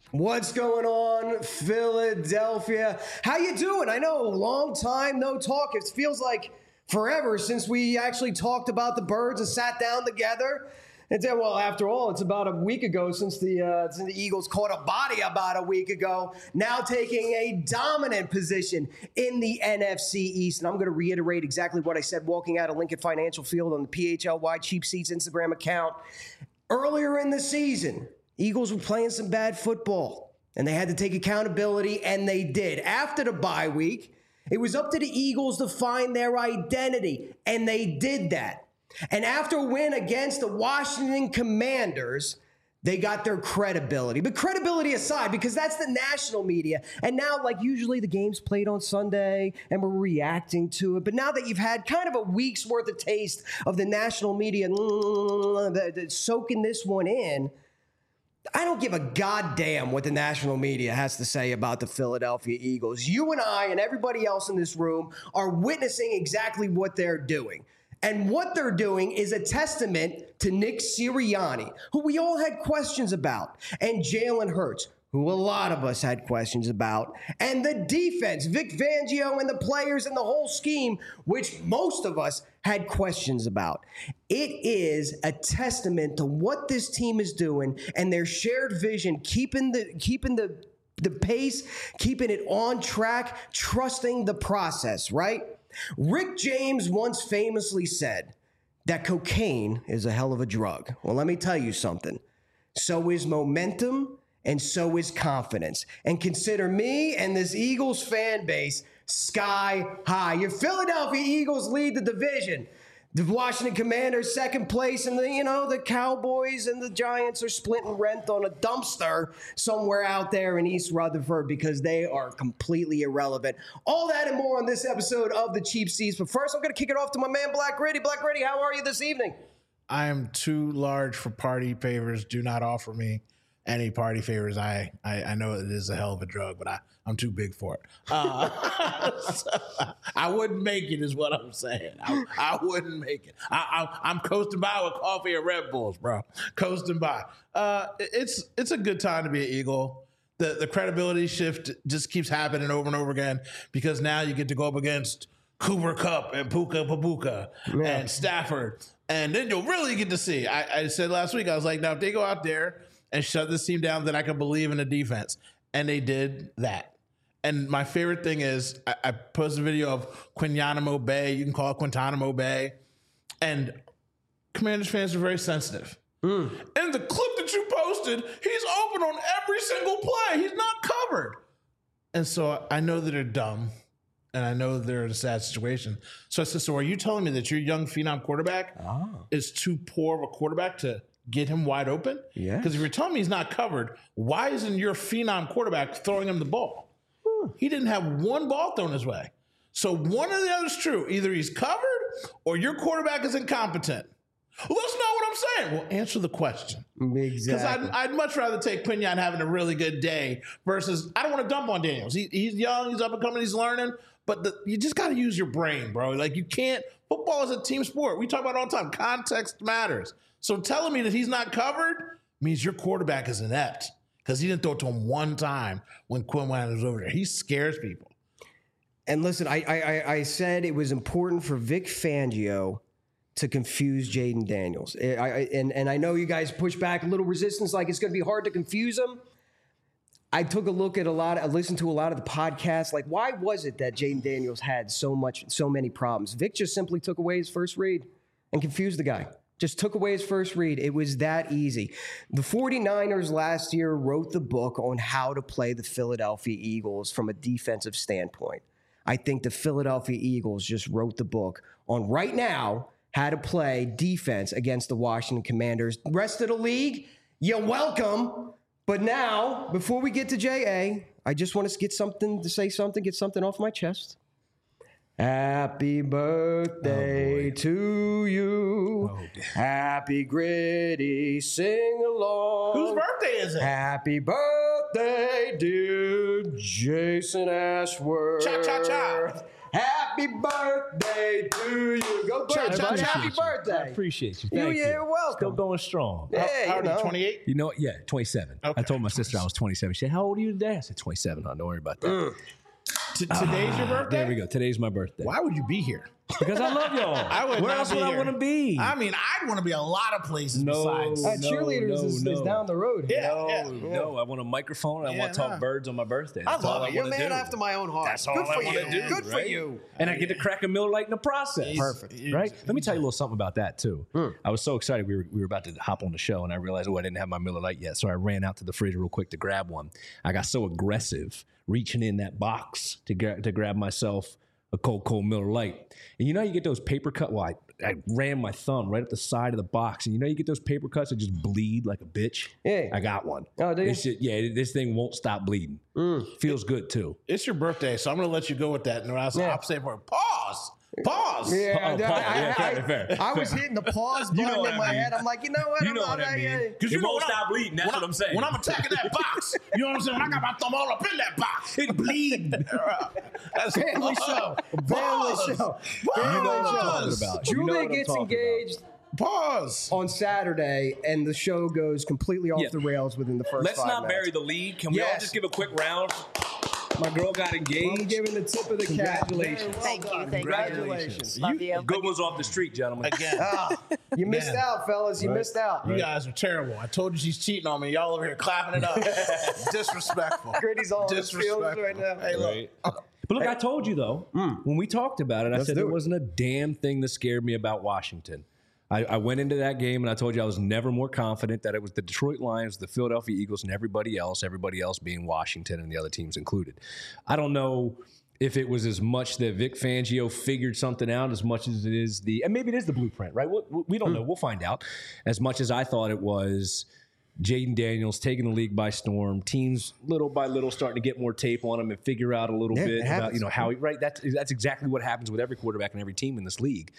What's going on, Philadelphia? How you doing? I know, long time no talk. It feels like forever since we actually talked about the Birds and sat down together. And then, well, after all, it's about a week ago since the Eagles caught a body about a week ago, now taking a dominant position in the NFC East. And I'm going to reiterate exactly what I said walking out of Lincoln Financial Field on the PHLY Cheap Seats Instagram account. Earlier in the season, Eagles were playing some bad football, and they had to take accountability, and they did. After the bye week, it was up to the Eagles to find their identity, and they did that. And after a win against the Washington Commanders, they got their credibility. But credibility aside, because that's the national media. And now, like usually the game's played on Sunday and we're reacting to it. But now that you've had kind of a week's worth of taste of the national media soaking this one in, I don't give a goddamn what the national media has to say about the Philadelphia Eagles. You and I and everybody else in this room are witnessing exactly what they're doing. And what they're doing is a testament to Nick Sirianni, who we all had questions about, and Jalen Hurts, who a lot of us had questions about, and the defense, Vic Fangio and the players and the whole scheme, which most of us had questions about. It is a testament to what this team is doing and their shared vision, keeping the pace, keeping it on track, trusting the process, right? Rick James once famously said that cocaine is a hell of a drug. Well, let me tell you something. So is momentum, and so is confidence. And consider me and this Eagles fan base sky high. Your Philadelphia Eagles lead the division. The Washington Commanders second place, and the Cowboys and the Giants are splitting rent on a dumpster somewhere out there in East Rutherford because they are completely irrelevant. All that and more on this episode of the Cheap Seats. But first, I'm going to kick it off to my man, Black Gritty. Black Gritty, how are you this evening? I am too large for party favors. Do not offer me any party favors. I know it is a hell of a drug, but I'm too big for it. I wouldn't make it is what I'm saying. I wouldn't make it. I'm coasting by with coffee and Red Bulls, bro. Coasting by. It's a good time to be an Eagle. The credibility shift just keeps happening over and over again because now you get to go up against Cooper Kupp and Puka Papuka and Stafford. And then you'll really get to see. I said last week, I was like, now if they go out there and shut this team down, then I can believe in the defense. And they did that. And my favorite thing is I posted a video of Guantanamo Bay. You can call it Guantanamo Bay. And Commanders fans are very sensitive. And the clip that you posted, he's open on every single play. He's not covered. And so I know that they're dumb. And I know they're in a sad situation. So I said, so are you telling me that your young phenom quarterback is too poor of a quarterback to get him wide open? Yeah. Because if you're telling me he's not covered, why isn't your phenom quarterback throwing him the ball? He didn't have one ball thrown his way. So one or the other is true. Either he's covered or your quarterback is incompetent. Well, that's not what I'm saying. Well, answer the question. Exactly. Because I'd much rather take Quinyon having a really good day versus I don't want to dump on Daniels. He's young, he's up and coming, he's learning. But you just got to use your brain, bro. Like you can't. Football is a team sport. We talk about it all the time. Context matters. So telling me that he's not covered means your quarterback is inept because he didn't throw it to him one time when Quinyon was over there. He scares people. And listen, I said it was important for Vic Fangio to confuse Jaden Daniels. And I know you guys push back a little resistance, like it's going to be hard to confuse him. I took a look at I listened to a lot of the podcasts. Like, why was it that Jaden Daniels had so many problems? Vic just simply took away his first read and confused the guy. Just took away his first read. It was that easy. The 49ers last year wrote the book on how to play the Philadelphia Eagles from a defensive standpoint. I think the Philadelphia Eagles just wrote the book on right now how to play defense against the Washington Commanders. The rest of the league, you're welcome. But now, before we get to JA, I just want to get something off my chest. Happy birthday to you. Happy Gritty, sing along. Whose birthday is it? Happy birthday, dear Jason Ashworth. Cha-cha-cha. Happy birthday to you. Go Church, happy birthday. I appreciate you. Thank you. You're welcome. Still going strong. Yeah, How old are you, 28? You know, yeah, 27. Okay. I told my sister I was 27. She said, how old are you today? I said, 27. Don't worry about that. Today's your birthday? There we go. Today's my birthday. Why would you be here? Because I love y'all. Where else would I want to be? I mean, I'd want to be a lot of places besides. Cheerleaders is down the road here. No, I want a microphone. I want to talk birds on my birthday. I That's all love I it. You're a want to man do. after my own heart. That's all Good I for want to you. do. Good for right? you. And I get to crack a Miller Lite in the process. Perfect. Right? Let me tell you a little something about that, too. I was so excited. We were about to hop on the show, and I realized, I didn't have my Miller Lite yet. So I ran out to the fridge real quick to grab one. I got so aggressive reaching in that box to grab myself a cold Miller Lite. And you know you get those paper cut. Well, I ran my thumb right up the side of the box, and you know you get those paper cuts that just bleed like a bitch. Yeah. I got one. Oh, do you? This thing won't stop bleeding. Feels good too. It's your birthday, so I'm going to let you go with that. And I'll say for pause. Yeah, Fair. I was hitting the pause button know what in my I mean. head. I'm like, you know what? You know what I mean. Because It won't stop bleeding. That's what I'm saying. When I'm attacking that box, you know what I'm saying? When I got my thumb all up in that box, it bleed. That's Family show. Family show. You know what I'm talking about. You know Julia what I'm gets talking engaged Pause. on Saturday, and the show goes completely off the rails within the first Let's 5 not minutes. bury the lead. Can we all Yes. just give a quick round? My girl got engaged. I'm giving the tip of the cap. Congratulations. Thank you. Thank Congratulations. you. Love you. Good ones off the street, gentlemen. Again. You missed Man. out, fellas. You missed out. You guys are terrible. I told you she's cheating on me. Y'all over here clapping it up. Disrespectful. Gritty's all in his feelings right now. Hey, look. But look, I told you though, when we talked about it, I said do there it. wasn't a damn thing that scared me about Washington. I went into that game and I told you I was never more confident that it was the Detroit Lions, the Philadelphia Eagles, and everybody else being Washington and the other teams included. I don't know if it was as much that Vic Fangio figured something out as much as it is and maybe it is the blueprint, right? We don't know. We'll find out. As much as I thought it was Jaden Daniels taking the league by storm, teams little by little starting to get more tape on him and figure out a little Yeah, bit it about happens. how he, right. That's exactly what happens with every quarterback and every team in this league.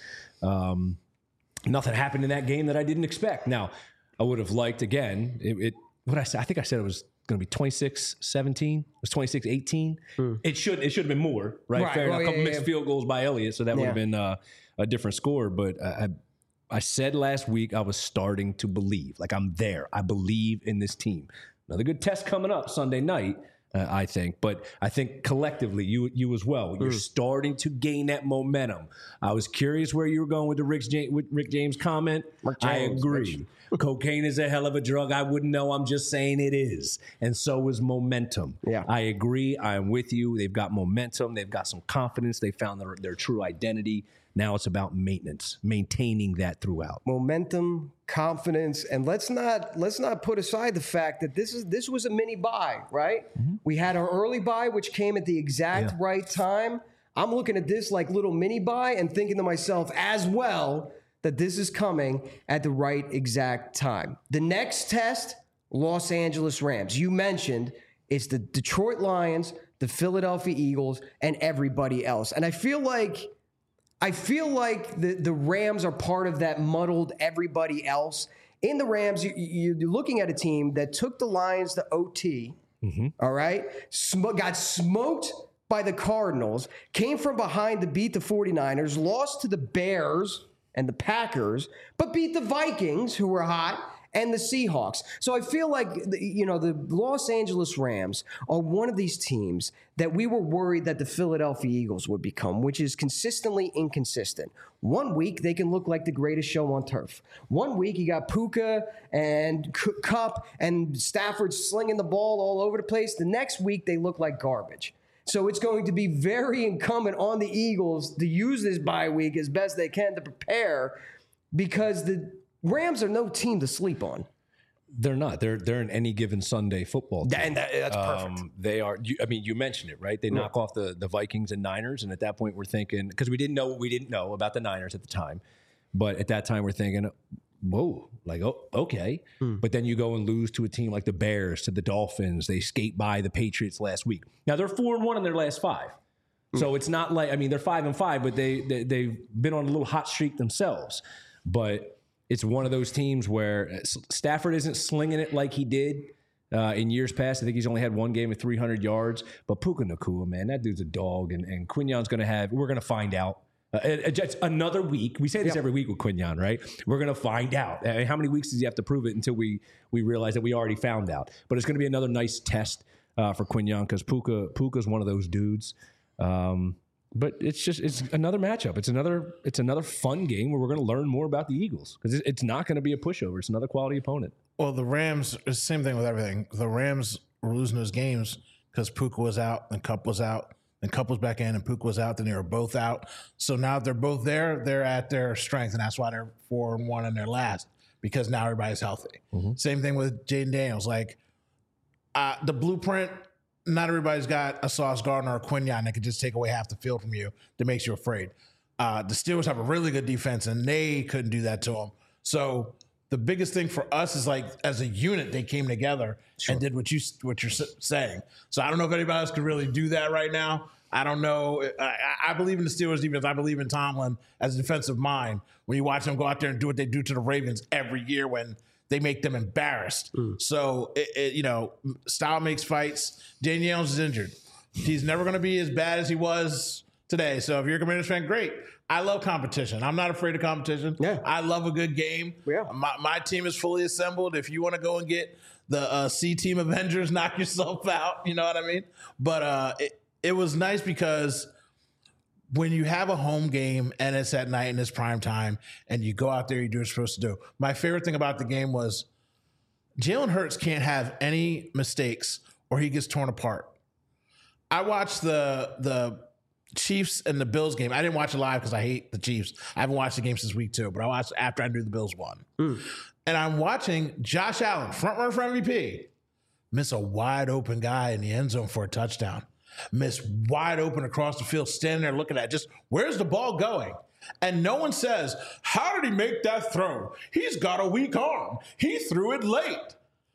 Nothing happened in that game that I didn't expect. Now, I would have liked again. What I said, I think I said it was going to be 26-17. It was 26-18. It should have been more, right? Right. Fair enough. Well, A couple yeah, mixed field goals by Elliott, so that would have been a different score. But I said last week I was starting to believe. Like, I'm there. I believe in this team. Another good test coming up Sunday night, I think. But I think collectively, you as well, you're starting to gain that momentum. I was curious where you were going with the Rick James comment. I agree. Cocaine is a hell of a drug. I wouldn't know. I'm just saying it is. And so is momentum. Yeah. I agree. I'm with you. They've got momentum. They've got some confidence. They found their true identity. Now it's about maintenance, maintaining that throughout. Momentum, confidence, and let's not put aside the fact that this was a mini bye, right? We had our early bye, which came at the exact right time. I'm looking at this like little mini bye and thinking to myself as well that this is coming at the right exact time. The next test, Los Angeles Rams. You mentioned it's the Detroit Lions, the Philadelphia Eagles, and everybody else. And I feel like the Rams are part of that muddled everybody else. In the Rams, you're looking at a team that took the Lions to OT, all right? Got smoked by the Cardinals, came from behind to beat the 49ers, lost to the Bears and the Packers, but beat the Vikings, who were hot, and the Seahawks. So I feel like, the Los Angeles Rams are one of these teams that we were worried that the Philadelphia Eagles would become, which is consistently inconsistent. 1 week, they can look like the greatest show on turf. 1 week, you got Puka and Kupp and Stafford slinging the ball all over the place. The next week, they look like garbage. So it's going to be very incumbent on the Eagles to use this bye week as best they can to prepare, because the Rams are no team to sleep on. They're not. They're an any given Sunday football team. And that's perfect. They are. You mentioned it, right? They knock off the Vikings and Niners, and at that point we're thinking, because we didn't know what we didn't know about the Niners at the time, but at that time we're thinking, whoa, like, oh, okay. But then you go and lose to a team like the Bears, to the Dolphins. They skate by the Patriots last week. Now they're 4-1 in their last 5. So it's not like, they're 5-5, but they've been on a little hot streak themselves. But it's one of those teams where Stafford isn't slinging it like he did In years past, I think he's only had one game of 300 yards. But Puka Nacua, man, that dude's a dog. And Quignon's going to have – we're going to find out. Just another week. We say this every week with Quignon, right? We're going to find out. How many weeks does he have to prove it until we realize that we already found out? But it's going to be another nice test for Quignon because Puka's one of those dudes. But it's another matchup. It's another fun game where we're going to learn more about the Eagles because it's not going to be a pushover. It's another quality opponent. Well, the Rams, it's the same thing with everything. The Rams were losing those games because Puka was out and Kupp was out. And Kupp was back in and Puka was out. Then they were both out. So now they're both there. They're at their strength. And that's why they're 4-1 in their last because now everybody's healthy. Mm-hmm. Same thing with Jaden Daniels. Like the blueprint, not everybody's got a Sauce Gardner or a Quignon that could just take away half the field from you that makes you afraid. The Steelers have a really good defense, and they couldn't do that to them. So the biggest thing for us is like as a unit, they came together and did what you're saying. So I don't know if anybody else could really do that right now. I don't know. I believe in the Steelers defense. I believe in Tomlin as a defensive mind. When you watch them go out there and do what they do to the Ravens every year when they make them embarrassed. So, style makes fights. Daniels is injured. He's never going to be as bad as he was today. So if you're a Commanders fan, great. I love competition. I'm not afraid of competition. Yeah. I love a good game. Yeah. My team is fully assembled. If you want to go and get the C-Team Avengers, knock yourself out. You know what I mean? But it was nice because when you have a home game and it's at night and it's prime time and you go out there, you do what you're supposed to do. My favorite thing about the game was Jalen Hurts can't have any mistakes or he gets torn apart. I watched the Chiefs and the Bills game. I didn't watch it live because I hate the Chiefs. I haven't watched the game since week 2, but I watched after I knew the Bills won. And I'm watching Josh Allen, front runner for MVP, miss a wide open guy in the end zone for a touchdown. Miss wide open across the field, standing there looking at just where's the ball going? And no one says, how did he make that throw? He's got a weak arm. He threw it late.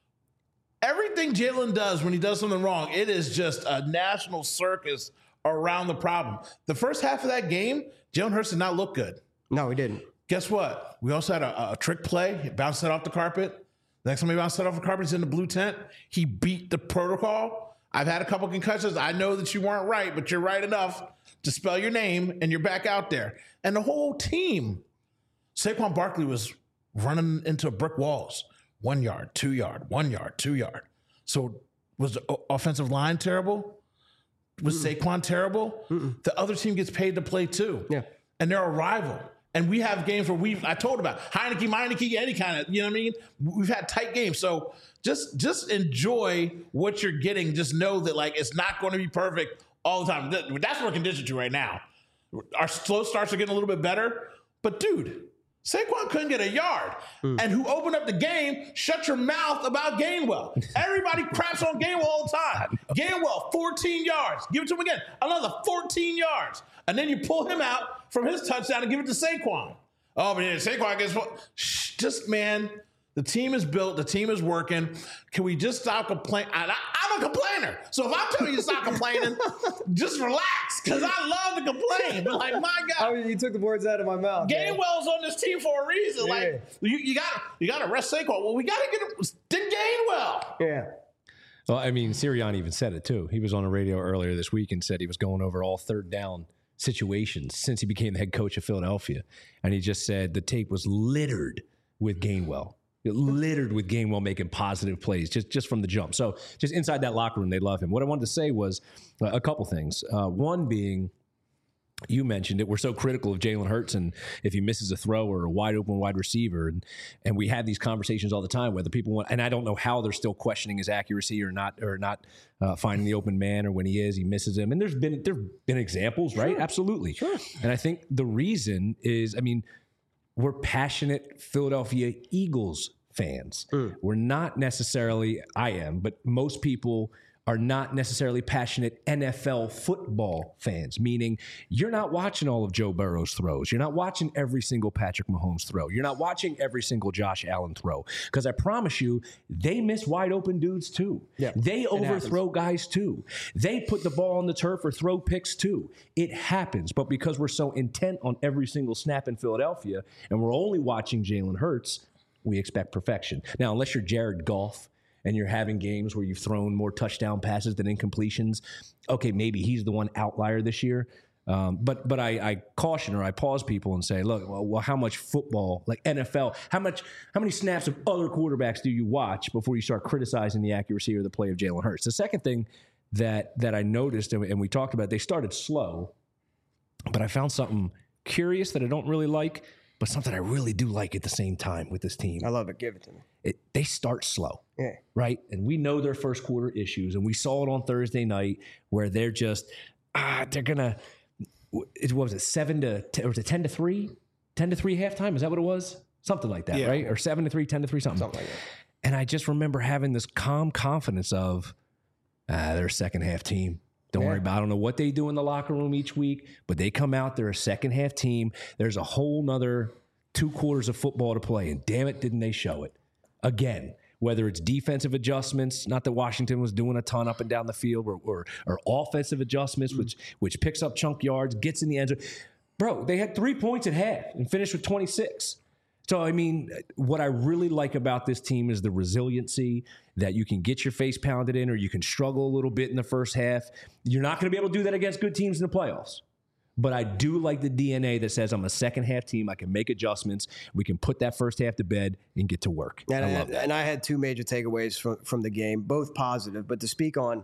Everything Jalen does when he does something wrong, it is just a national circus around the problem. The first half of that game, Jalen Hurts did not look good. No, he didn't. Guess what? We also had a trick play. He bounced it off the carpet. The next time he bounced it off the carpet, he's in the blue tent. He beat the protocol. I've had a couple concussions. I know that you weren't right, but you're right enough to spell your name, and you're back out there. And the whole team, Saquon Barkley was running into brick walls. 1 yard, 2 yard, 1 yard, 2 yard. So was the offensive line terrible? Was Saquon terrible? The other team gets paid to play too. Yeah. And they're a rival. And we have games where I told about Heineke, any kind of, you know what I mean? We've had tight games. So just enjoy what you're getting. Just know that like it's not going to be perfect all the time. That's what we're conditioned to right now. Our slow starts are getting a little bit better. But dude, Saquon couldn't get a yard. And who opened up the game, shut your mouth about Gainwell. Everybody craps on Gainwell all the time. Gainwell, 14 yards. Give it to him again. Another 14 yards. And then you pull him out from his touchdown and give it to Saquon. Oh, but yeah, Saquon gets just, man, the team is built. The team is working. Can we just stop complaining? I'm a complainer. So if I'm telling you to stop complaining, just relax because I love to complain. But like, my God. I mean, you took the words out of my mouth. Gainwell's on this team for a reason. Yeah. Like, you got to rest Saquon. Well, we got to get him. Did Gainwell. Yeah. Well, I mean, Sirianni even said it too. He was on the radio earlier this week and said he was going over all third down situations since he became the head coach of Philadelphia. And he just said the tape was littered with Gainwell. Littered with Gainwell making positive plays just from the jump. So just inside that locker room, they love him. What I wanted to say was a couple things. One being, you mentioned it, we're so critical of Jalen Hurts and if he misses a throw or a wide open wide receiver. And we have these conversations all the time, whether people want, and I don't know how they're still questioning his accuracy or not finding the open man, or when he misses him. And there've been examples, right? Sure. Absolutely. Sure. And I think the reason is, I mean, we're passionate Philadelphia Eagles fans. We're not necessarily, I am, but most people are not necessarily passionate NFL football fans, meaning you're not watching all of Joe Burrow's throws. You're not watching every single Patrick Mahomes throw. You're not watching every single Josh Allen throw. Because I promise you, they miss wide open dudes too. Yeah, they overthrow guys too. They put the ball on the turf or throw picks too. It happens. But because we're so intent on every single snap in Philadelphia and we're only watching Jalen Hurts, we expect perfection. Now, unless you're Jared Goff and you're having games where you've thrown more touchdown passes than incompletions, okay, maybe he's the one outlier this year. But I caution or I pause people and say, look, well, how much football, like NFL, how many snaps of other quarterbacks do you watch before you start criticizing the accuracy or the play of Jalen Hurts? The second thing that I noticed, and we talked about, they started slow, but I found something curious that I don't really like, but something I really do like at the same time with this team. I love it. Give it to me. They start slow, right? And we know their first quarter issues, and we saw it on Thursday night where they're just they're gonna. What was it, 7 to 10, or was it 10 to 3? 10 to 3 halftime? Is that what it was? Something like that, right? Or 7 to 3, 10 to 3, something like that. And I just remember having this calm confidence of they're a second half team. Don't worry about it. I don't know what they do in the locker room each week, but they come out, they're a second half team. There's a whole nother 2 quarters of football to play, and damn it, didn't they show it. Again, whether it's defensive adjustments, not that Washington was doing a ton up and down the field, or offensive adjustments, which picks up chunk yards, gets in the end zone. Bro, they had 3 points at half and finished with 26. So, I mean, what I really like about this team is the resiliency that you can get your face pounded in, or you can struggle a little bit in the first half. You're not going to be able to do that against good teams in the playoffs. But I do like the DNA that says I'm a second half team. I can make adjustments. We can put that first half to bed and get to work. And I love that. And I had 2 major takeaways from the game, both positive. But to speak on,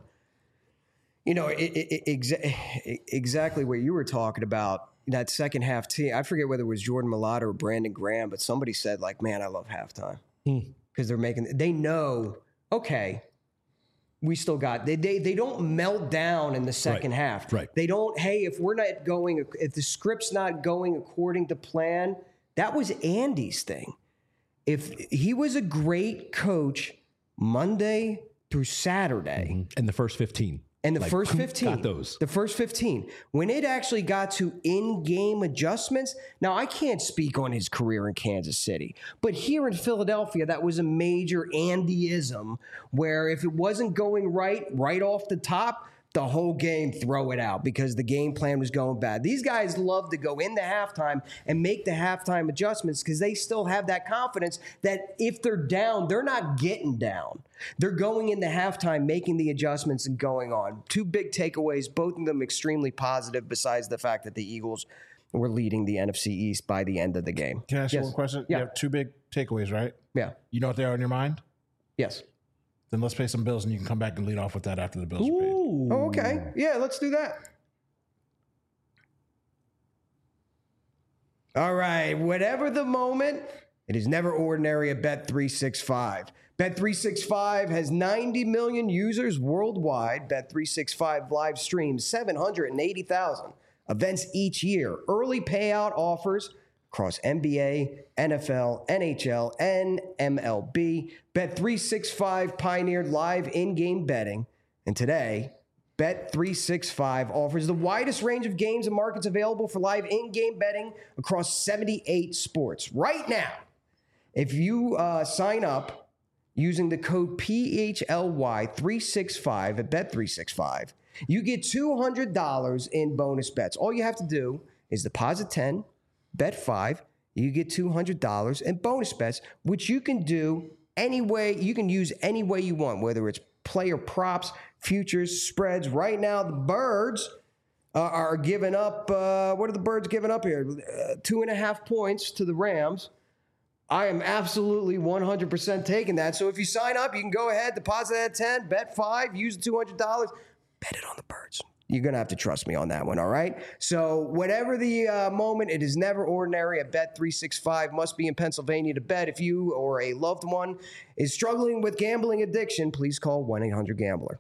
exactly what you were talking about, that second half team. I forget whether it was Jordan Mailata or Brandon Graham, but somebody said, like, man, I love halftime. Because they know, okay, we still got, they don't melt down in the second half. Right. They don't, hey, if the script's not going according to plan, that was Andy's thing. If he was a great coach Monday through Saturday. And the first 15. And the first 15. Got those. The first 15. When it actually got to in-game adjustments, now I can't speak on his career in Kansas City, but here in Philadelphia, that was a major Andyism where if it wasn't going right off the top, the whole game throw it out because the game plan was going bad. These guys love to go into halftime and make the halftime adjustments because they still have that confidence that if they're down, they're not getting down. They're going into halftime, making the adjustments and going on. 2 big takeaways, both of them extremely positive besides the fact that the Eagles were leading the NFC East by the end of the game. Can I ask you one question? Yeah. You have 2 big takeaways, right? Yeah. You know what they are in your mind? Yes. Then let's pay some bills, and you can come back and lead off with that after the bills are paid. Oh, okay. Yeah, let's do that. All right. Whatever the moment, it is never ordinary at Bet365. Bet365 has 90 million users worldwide. Bet365 live streams 780,000 events each year. Early payout offers across NBA, NFL, NHL, and MLB. Bet365 pioneered live in-game betting. And today, Bet365 offers the widest range of games and markets available for live in-game betting across 78 sports. Right now, if you sign up using the code PHLY365 at Bet365, you get $200 in bonus bets. All you have to do is deposit 10, bet 5, you get $200 in bonus bets, which you can do any way. You can use any way you want, whether it's player props, futures, spreads. Right now, the Birds are giving up. What are the Birds giving up here? 2.5 points to the Rams. I am absolutely 100% taking that. So if you sign up, you can go ahead, deposit at 10, bet 5, use the $200, bet it on the Birds. You're going to have to trust me on that one, all right? So whatever the moment, it is never ordinary at Bet365. Must be in Pennsylvania to bet. If you or a loved one is struggling with gambling addiction, please call 1-800-GAMBLER.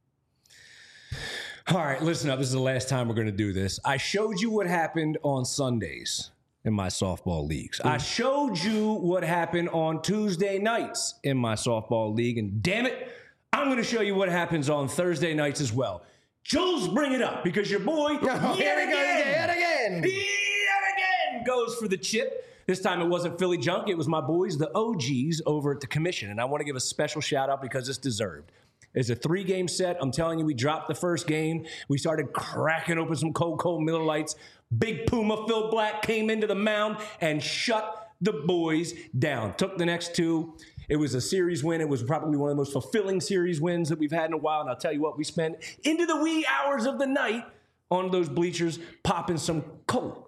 All right, listen up. This is the last time we're going to do this. I showed you what happened on Sundays in my softball leagues. I showed you what happened on Tuesday nights in my softball league. And damn it, I'm going to show you what happens on Thursday nights as well. Jules, bring it up because your boy yet again goes for the chip. This time it wasn't Philly Junk. It was my boys, the OGs over at the Commission. And I want to give a special shout out because it's deserved. It's a 3-game set. I'm telling you, we dropped the first game. We started cracking open some cold Miller Lights. Big Puma Phil Black came into the mound and shut the boys down. Took the next 2. It was a series win. It was probably one of the most fulfilling series wins that we've had in a while. And I'll tell you what, we spent into the wee hours of the night on those bleachers popping some cold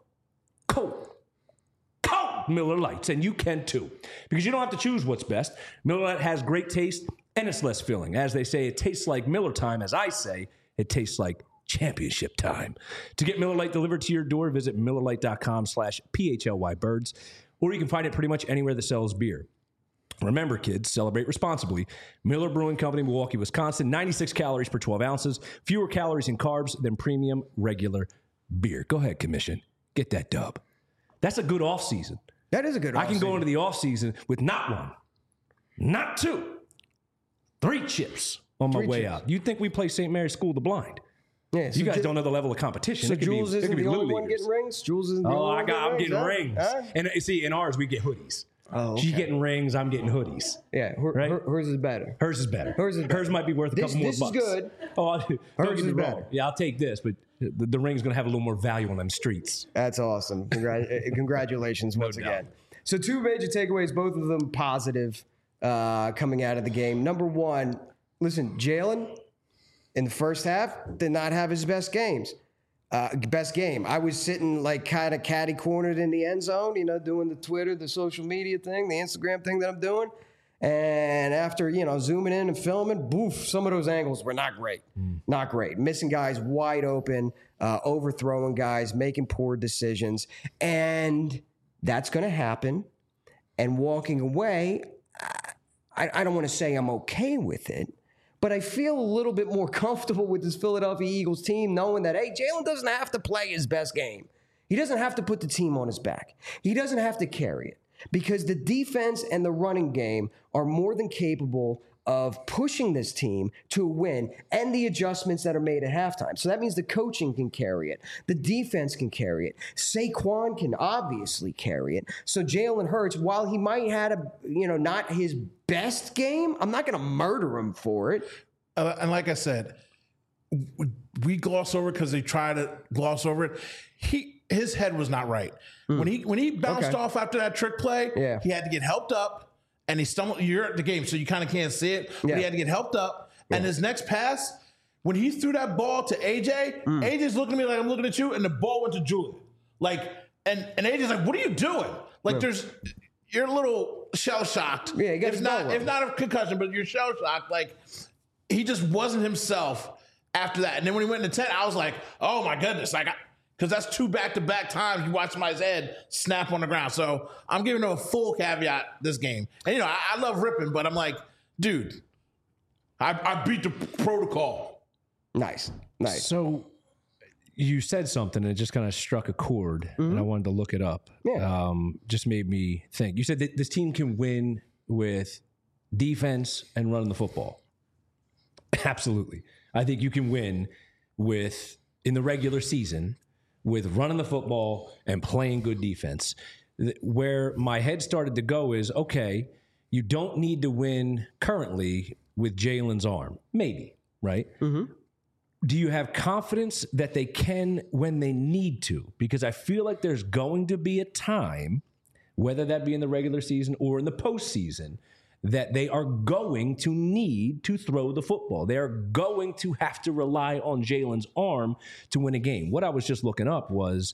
Miller Lights. And you can too, because you don't have to choose what's best. Miller Lite has great taste and it's less filling. As they say, it tastes like Miller time. As I say, it tastes like championship time. To get Miller Lite delivered to your door, visit MillerLite.com/PHLYBirds, or you can find it pretty much anywhere that sells beer. Remember, kids, celebrate responsibly. Miller Brewing Company, Milwaukee, Wisconsin, 96 calories per 12 ounces, fewer calories and carbs than premium regular beer. Go ahead, Commission. Get that dub. That's a good offseason. That is a good offseason. I can go into the offseason with not one, not two, 3 chips on my way out. You'd think we play St. Mary's School of the Blind. Yeah, so you guys don't know the level of competition. So Jules isn't the only one getting rings? Jules isn't the only one I'm getting rings. Huh? And see, in ours, we get hoodies. Oh, okay. She's getting rings. I'm getting hoodies. Yeah, right? Hers is better. Hers is better. Hers might be worth a couple more bucks. This is good. Oh, don't Hers get me is wrong. better. Yeah, I'll take this, but the ring's going to have a little more value on them streets. That's awesome. Congratulations once again. So 2 major takeaways, both of them positive coming out of the game. Number one, listen, Jalen in the first half did not have his best game. I was sitting like kind of catty cornered in the end zone, doing the Twitter, the social media thing, the Instagram thing that I'm doing. And after, zooming in and filming, boof, some of those angles were not great. Not great. Missing guys wide open, overthrowing guys, making poor decisions. And that's going to happen. And walking away, I don't want to say I'm okay with it, but I feel a little bit more comfortable with this Philadelphia Eagles team knowing that, hey, Jalen doesn't have to play his best game. He doesn't have to put the team on his back. He doesn't have to carry it because the defense and the running game are more than capable of pushing this team to a win and the adjustments that are made at halftime. So that means the coaching can carry it. The defense can carry it. Saquon can obviously carry it. So Jalen Hurts, while he might have not his best game, I'm not going to murder him for it. And like I said, we gloss over because they try to gloss over it. His head was not right. When he bounced off after that trick play, he had to get helped up. And he stumbled. You're at the game, so you kind of can't see it. But he had to get helped up. And his next pass, when he threw that ball to AJ, AJ's looking at me like I'm looking at you, and the ball went to Julian. And AJ's like, "What are you doing?" You're a little shell shocked. Yeah, you got if not a concussion, but you're shell shocked. Like he just wasn't himself after that. And then when he went into 10, I was like, "Oh my goodness!" Because that's 2 back-to-back times you watch somebody's head snap on the ground. So I'm giving them a full caveat this game. And, I love ripping, but I'm like, dude, I beat the protocol. Nice. So you said something and it just kind of struck a chord, and I wanted to look it up. Yeah. Just made me think. You said that this team can win with defense and running the football. Absolutely. I think you can win in the regular season, with running the football and playing good defense. Where my head started to go is, okay, you don't need to win currently with Jalen's arm. Maybe, right? Mm-hmm. Do you have confidence that they can when they need to? Because I feel like there's going to be a time, whether that be in the regular season or in the postseason, that they are going to need to throw the football. They are going to have to rely on Jalen's arm to win a game. What I was just looking up was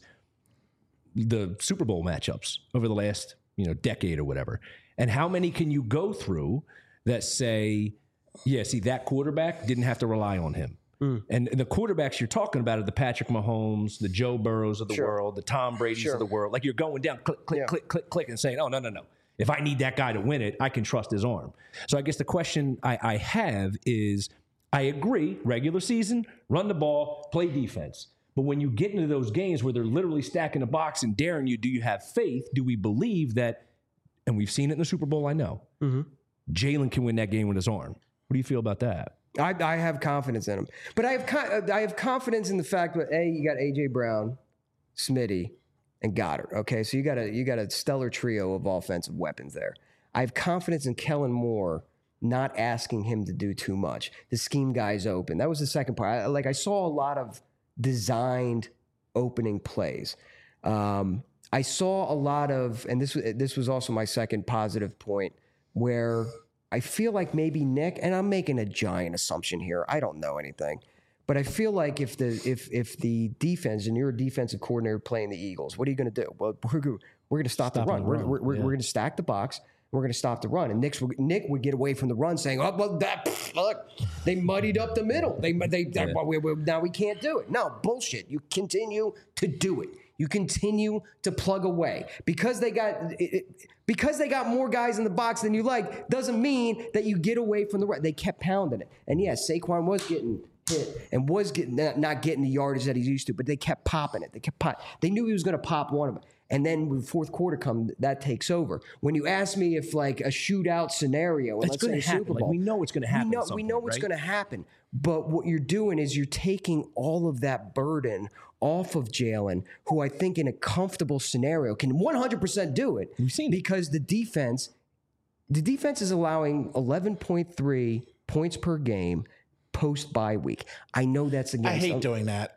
the Super Bowl matchups over the last, decade or whatever. And how many can you go through that say, that quarterback didn't have to rely on him. And the quarterbacks you're talking about are the Patrick Mahomes, the Joe Burrows of the world, the Tom Brady's of the world. Like you're going down, click, click, click, click, click, and saying, oh, no. If I need that guy to win it, I can trust his arm. So I guess the question I have is, I agree, regular season, run the ball, play defense. But when you get into those games where they're literally stacking the box and daring you, do you have faith? Do we believe that, and we've seen it in the Super Bowl, I know, Jalen can win that game with his arm. What do you feel about that? I have confidence in him. But I have confidence in the fact that, you got A.J. Brown, Smitty, and Goddard. Okay, so you got a stellar trio of offensive weapons there. I have confidence in Kellen Moore not asking him to do too much. The scheme guy's open. That was the second part. I saw a lot of designed opening plays. I saw a lot of, and this was also my second positive point where I feel like maybe Nick, and I'm making a giant assumption here. I don't know anything. But I feel like if the defense, and you're a defensive coordinator playing the Eagles, what are you going to do? Well, we're going to stop the run. We're going to stack the box. We're going to stop the run. And Nick would get away from the run saying, oh, well, look, they muddied up the middle. Now we can't do it. No, bullshit. You continue to do it. You continue to plug away. Because they got more guys in the box than you like, doesn't mean that you get away from the run. They kept pounding it. And yes, Saquon was getting hit and was not getting the yardage that he's used to, but they kept popping it. They knew he was going to pop one of them. And then when the fourth quarter comes, that takes over. When you ask me if like a shootout scenario, and let's say Super Bowl, like we know it's going to happen. We know what's going to happen. But what you're doing is you're taking all of that burden off of Jalen, who I think in a comfortable scenario can 100% do it. We've seen because the defense is allowing 11.3 points per game post bye week. I know that's against. I hate doing that.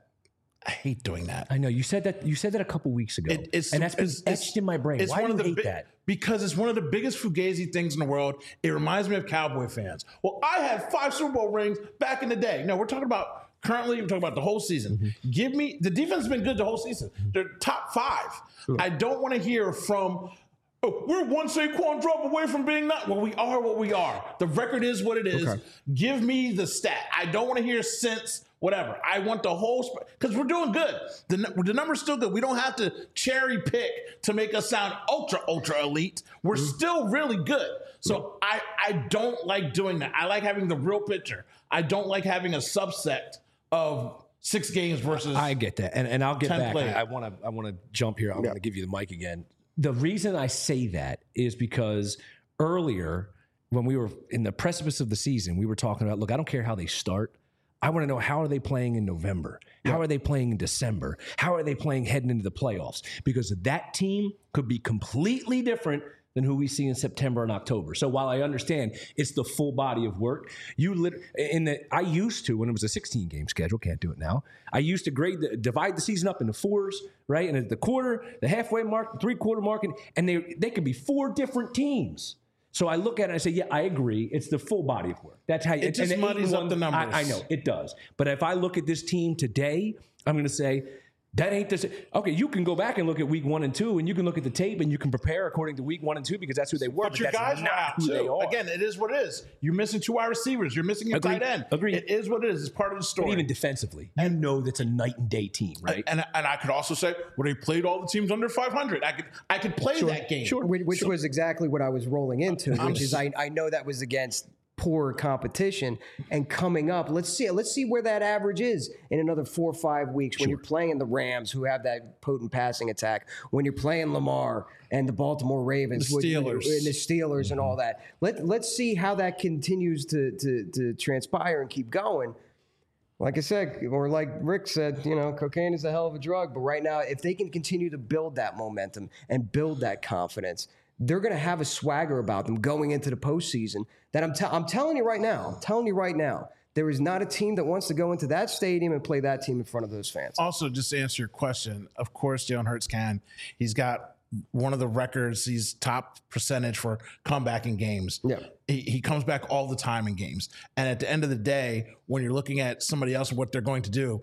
I know you said that a couple weeks ago, and that's been etched in my brain. Why do you hate that? Because it's one of the biggest fugazi things in the world. It reminds me of Cowboy fans. Well, I had 5 Super Bowl rings back in the day. No, we're talking about currently. We're talking about the whole season. Mm-hmm. Give me the defense has been good the whole season. They're top 5. Sure. I don't want to hear from. Oh, we're one Saquon drop away from being not. Well, we are what we are. The record is what it is. Okay. Give me the stat. I don't want to hear since. Whatever. I want the whole because we're doing good. The number's still good. We don't have to cherry pick to make us sound ultra elite. We're still really good. So I don't like doing that. I like having the real picture. I don't like having a subset of 6 games versus. I get that, and I'll get back. I want to jump here. I'm going to give you the mic again. The reason I say that is because earlier when we were in the precipice of the season, we were talking about, look, I don't care how they start. I want to know, how are they playing in November? How are they playing in December? How are they playing heading into the playoffs? Because that team could be completely different than who we see in September and October. So while I understand it's the full body of work, I used to, when it was a 16-game schedule, can't do it now, I used to divide the season up into 4s, right? And at the quarter, the halfway mark, the three-quarter mark, and they could be 4 different teams. So I look at it and I say, yeah, I agree. It's the full body of work. That's how it just muddies up the numbers. I know, it does. But if I look at this team today, I'm going to say, that ain't the same. Okay, you can go back and look at week 1 and 2, and you can look at the tape and you can prepare according to week 1 and 2 because that's who they were. But your guys are out too. They are. Again, it is what it is. You're missing 2 wide receivers. You're missing your tight end. Agreed. It is what it is. It's part of the story. But even defensively, you know that's a night and day team, right? And I could also say, well, they played all the teams under 500. I could play that game. Sure. Which was exactly what I was rolling into, which is I know that was against poor competition, and coming up, let's see where that average is in another 4 or 5 weeks when you're playing the Rams, who have that potent passing attack, when you're playing Lamar and the Baltimore Ravens, the Steelers and all that. Let's see how that continues to transpire and keep going. Like I said, or like Rick said, cocaine is a hell of a drug, but right now, if they can continue to build that momentum and build that confidence, they're going to have a swagger about them going into the postseason that I'm telling you right now, there is not a team that wants to go into that stadium and play that team in front of those fans. Also, just to answer your question, of course, Jalen Hurts can. He's got one of the records. He's top percentage for comeback in games. Yeah. He comes back all the time in games. And at the end of the day, when you're looking at somebody else and what they're going to do,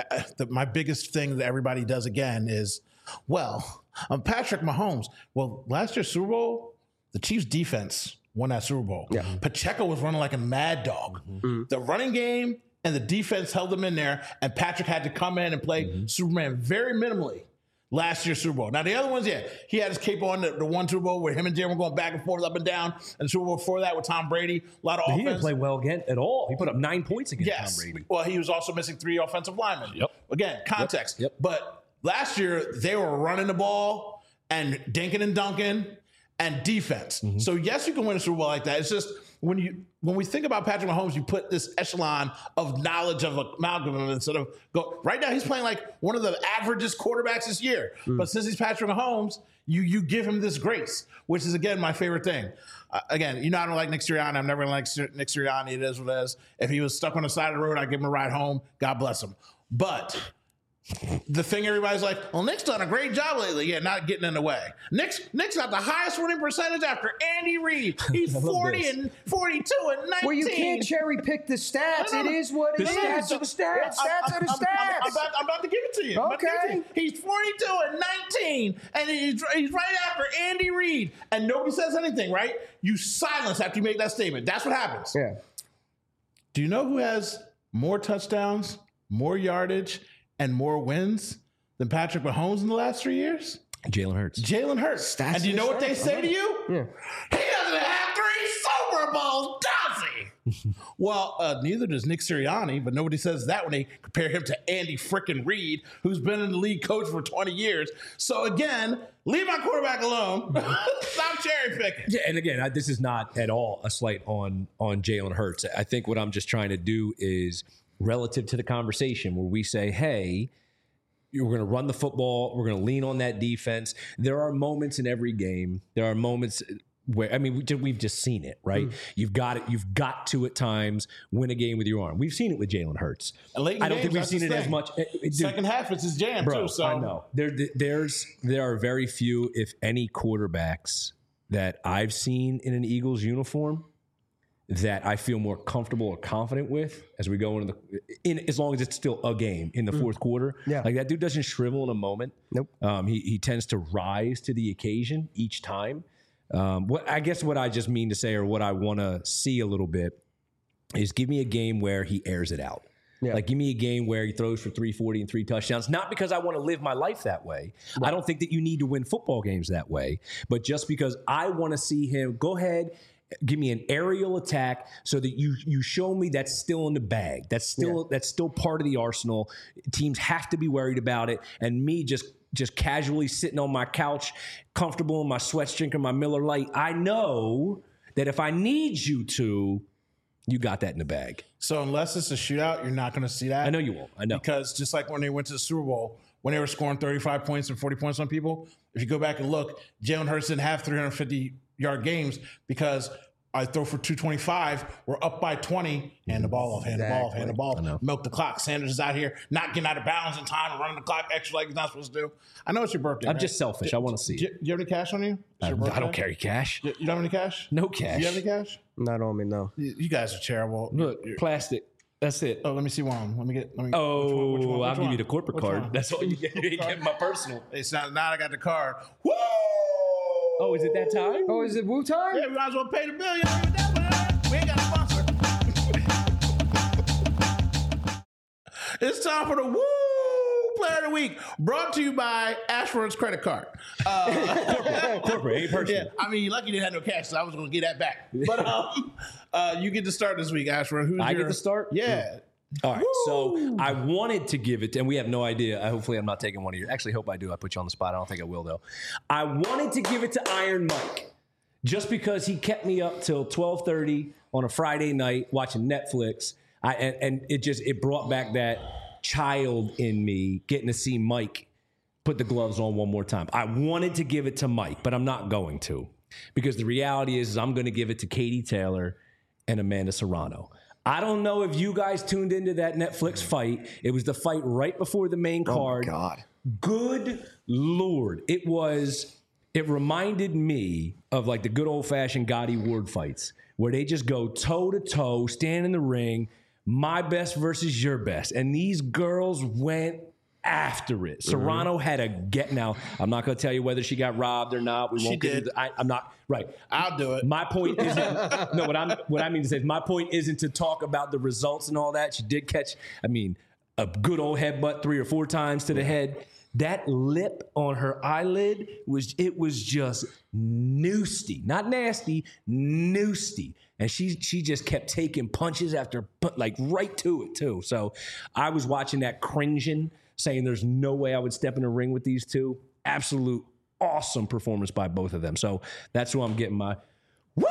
my biggest thing that everybody does again is, well, I'm Patrick Mahomes. Well, last year's Super Bowl, the Chiefs' defense won that Super Bowl. Yeah. Pacheco was running like a mad dog. Mm-hmm. The running game and the defense held them in there, and Patrick had to come in and play Superman very minimally last year's Super Bowl. Now, the other ones, he had his cape on the one Super Bowl where him and Jalen were going back and forth, up and down, and the Super Bowl before that with Tom Brady, a lot of offense. He didn't play well again at all. He put up 9 points against Tom Brady. Well, he was also missing 3 offensive linemen. Yep. Again, context. Yep. But last year, they were running the ball and dinking and dunking and defense. Mm-hmm. So, yes, you can win a Super Bowl like that. It's just when we think about Patrick Mahomes, you put this echelon of knowledge of amalgam and sort of go. Right now, he's playing like one of the averagest quarterbacks this year. Mm-hmm. But since he's Patrick Mahomes, you give him this grace, which is, again, my favorite thing. Again, I don't like Nick Sirianni. I'm never going to like Nick Sirianni. It is what it is. If he was stuck on the side of the road, I'd give him a ride home. God bless him. But the thing everybody's like, well, Nick's done a great job lately. Yeah, not getting in the way. Nick's got the highest winning percentage after Andy Reid. He's 40 and 42 and 19. Well, you can't cherry pick the stats. It is what it is. Stats are the stats. Stats are the stats. I'm about to give it to you. Okay. He's 42 and 19, and he's right after Andy Reid, and nobody says anything, right? You silence after you make that statement. That's what happens. Yeah. Do you know who has more touchdowns, more yardage, and more wins than Patrick Mahomes in the last 3 years? Jalen Hurts. Jalen Hurts. Stats And do you know what they stats. say to you? Yeah. He doesn't have 3 Super Bowls, does he? Well, neither does Nick Sirianni, but nobody says that when they compare him to Andy frickin' Reid, who's been in the league coach for 20 years. So again, leave my quarterback alone. Stop cherry picking. Yeah, and again, this is not at all a slight on Jalen Hurts. I think what I'm just trying to do is relative to the conversation where we say, hey, we're going to run the football. We're going to lean on that defense. There are moments in every game. There are moments where, I mean, we've just seen it, right? You've got to at times win a game with your arm. We've seen it with Jalen Hurts. And late in I don't think games, we've that's seen it his as thing. much. Dude, Second half, it's his jam, bro, too. So I know. There are very few, if any, quarterbacks that I've seen in an Eagles uniform that I feel more comfortable or confident with as we go into as long as it's still a game in the fourth quarter. Yeah. Like that dude doesn't shrivel in a moment. Nope. He tends to rise to the occasion each time. What I just mean to say, or what I want to see a little bit, is give me a game where he airs it out. Yeah. Like, give me a game where he throws for 340 and 3 touchdowns. Not because I want to live my life that way. Right. I don't think that you need to win football games that way. But just because I want to see him go ahead, give me an aerial attack so that you show me that's still in the bag. That's still part of the arsenal. Teams have to be worried about it. And me just casually sitting on my couch, comfortable in my sweats, drinking my Miller Lite, I know that if I need you to, you got that in the bag. So unless it's a shootout, you're not going to see that. I know you won't. I know. Because just like when they went to the Super Bowl, when they were scoring 35 points and 40 points on people, if you go back and look, Jalen Hurts didn't have 350-yard games because I throw for 225, we're up by 20, hand the ball off, hand the ball off, milk the clock. Sanders is out here not getting out of bounds in time and running the clock extra like he's not supposed to do. I know it's your birthday. I'm just selfish. I want to see Do it. you have any cash on you? I don't carry cash. You don't have any cash? No cash. Do you have any cash? Not on me, no. You guys are terrible. Look, plastic. That's it. Oh, let me see one. Let me get. Which I'll one? give you the corporate Which card. one? That's all you get. You ain't getting my personal. It's not. Now I got the card. Woo! Oh, is it that time? Oh, is it Wu time? Yeah, we might as well pay the bill. You know, that one, we ain't got a sponsor. It's time for the Woo Player of the Week, brought to you by Ashford's credit card. Corporate, ain't personal. Yeah, I mean, you're lucky you didn't have no cash, so I was going to get that back. But you get to start this week, Ashford. I get to start? Yeah. All right, so I wanted to give it, and we have no idea. Hopefully, I'm not taking one of your. Actually, hope I do. I put you on the spot. I don't think I will, though. I wanted to give it to Iron Mike, just because he kept me up till 12:30 on a Friday night watching Netflix. And it brought back that child in me getting to see Mike put the gloves on one more time. I wanted to give it to Mike, but I'm not going to, because the reality is I'm going to give it to Katie Taylor and Amanda Serrano. I don't know if you guys tuned into that Netflix fight. It was the fight right before the main card. Oh, God. Good Lord. It reminded me of like the good old-fashioned Gotti Ward fights where they just go toe-to-toe, stand in the ring, my best versus your best. And these girls went after it. Serrano had a get. Now, I'm not going to tell you whether she got robbed or not. We won't get into I'm not right. I'll do it. My point isn't no. What I mean to say is my point isn't to talk about the results and all that. She did catch, a good old headbutt 3 or 4 times to the head. That lip on her eyelid was just noosty, not nasty, noosty. And she just kept taking punches after like right to it too. So I was watching that cringing, saying there's no way I would step in a ring with these two. Absolute awesome performance by both of them. So that's who I'm getting my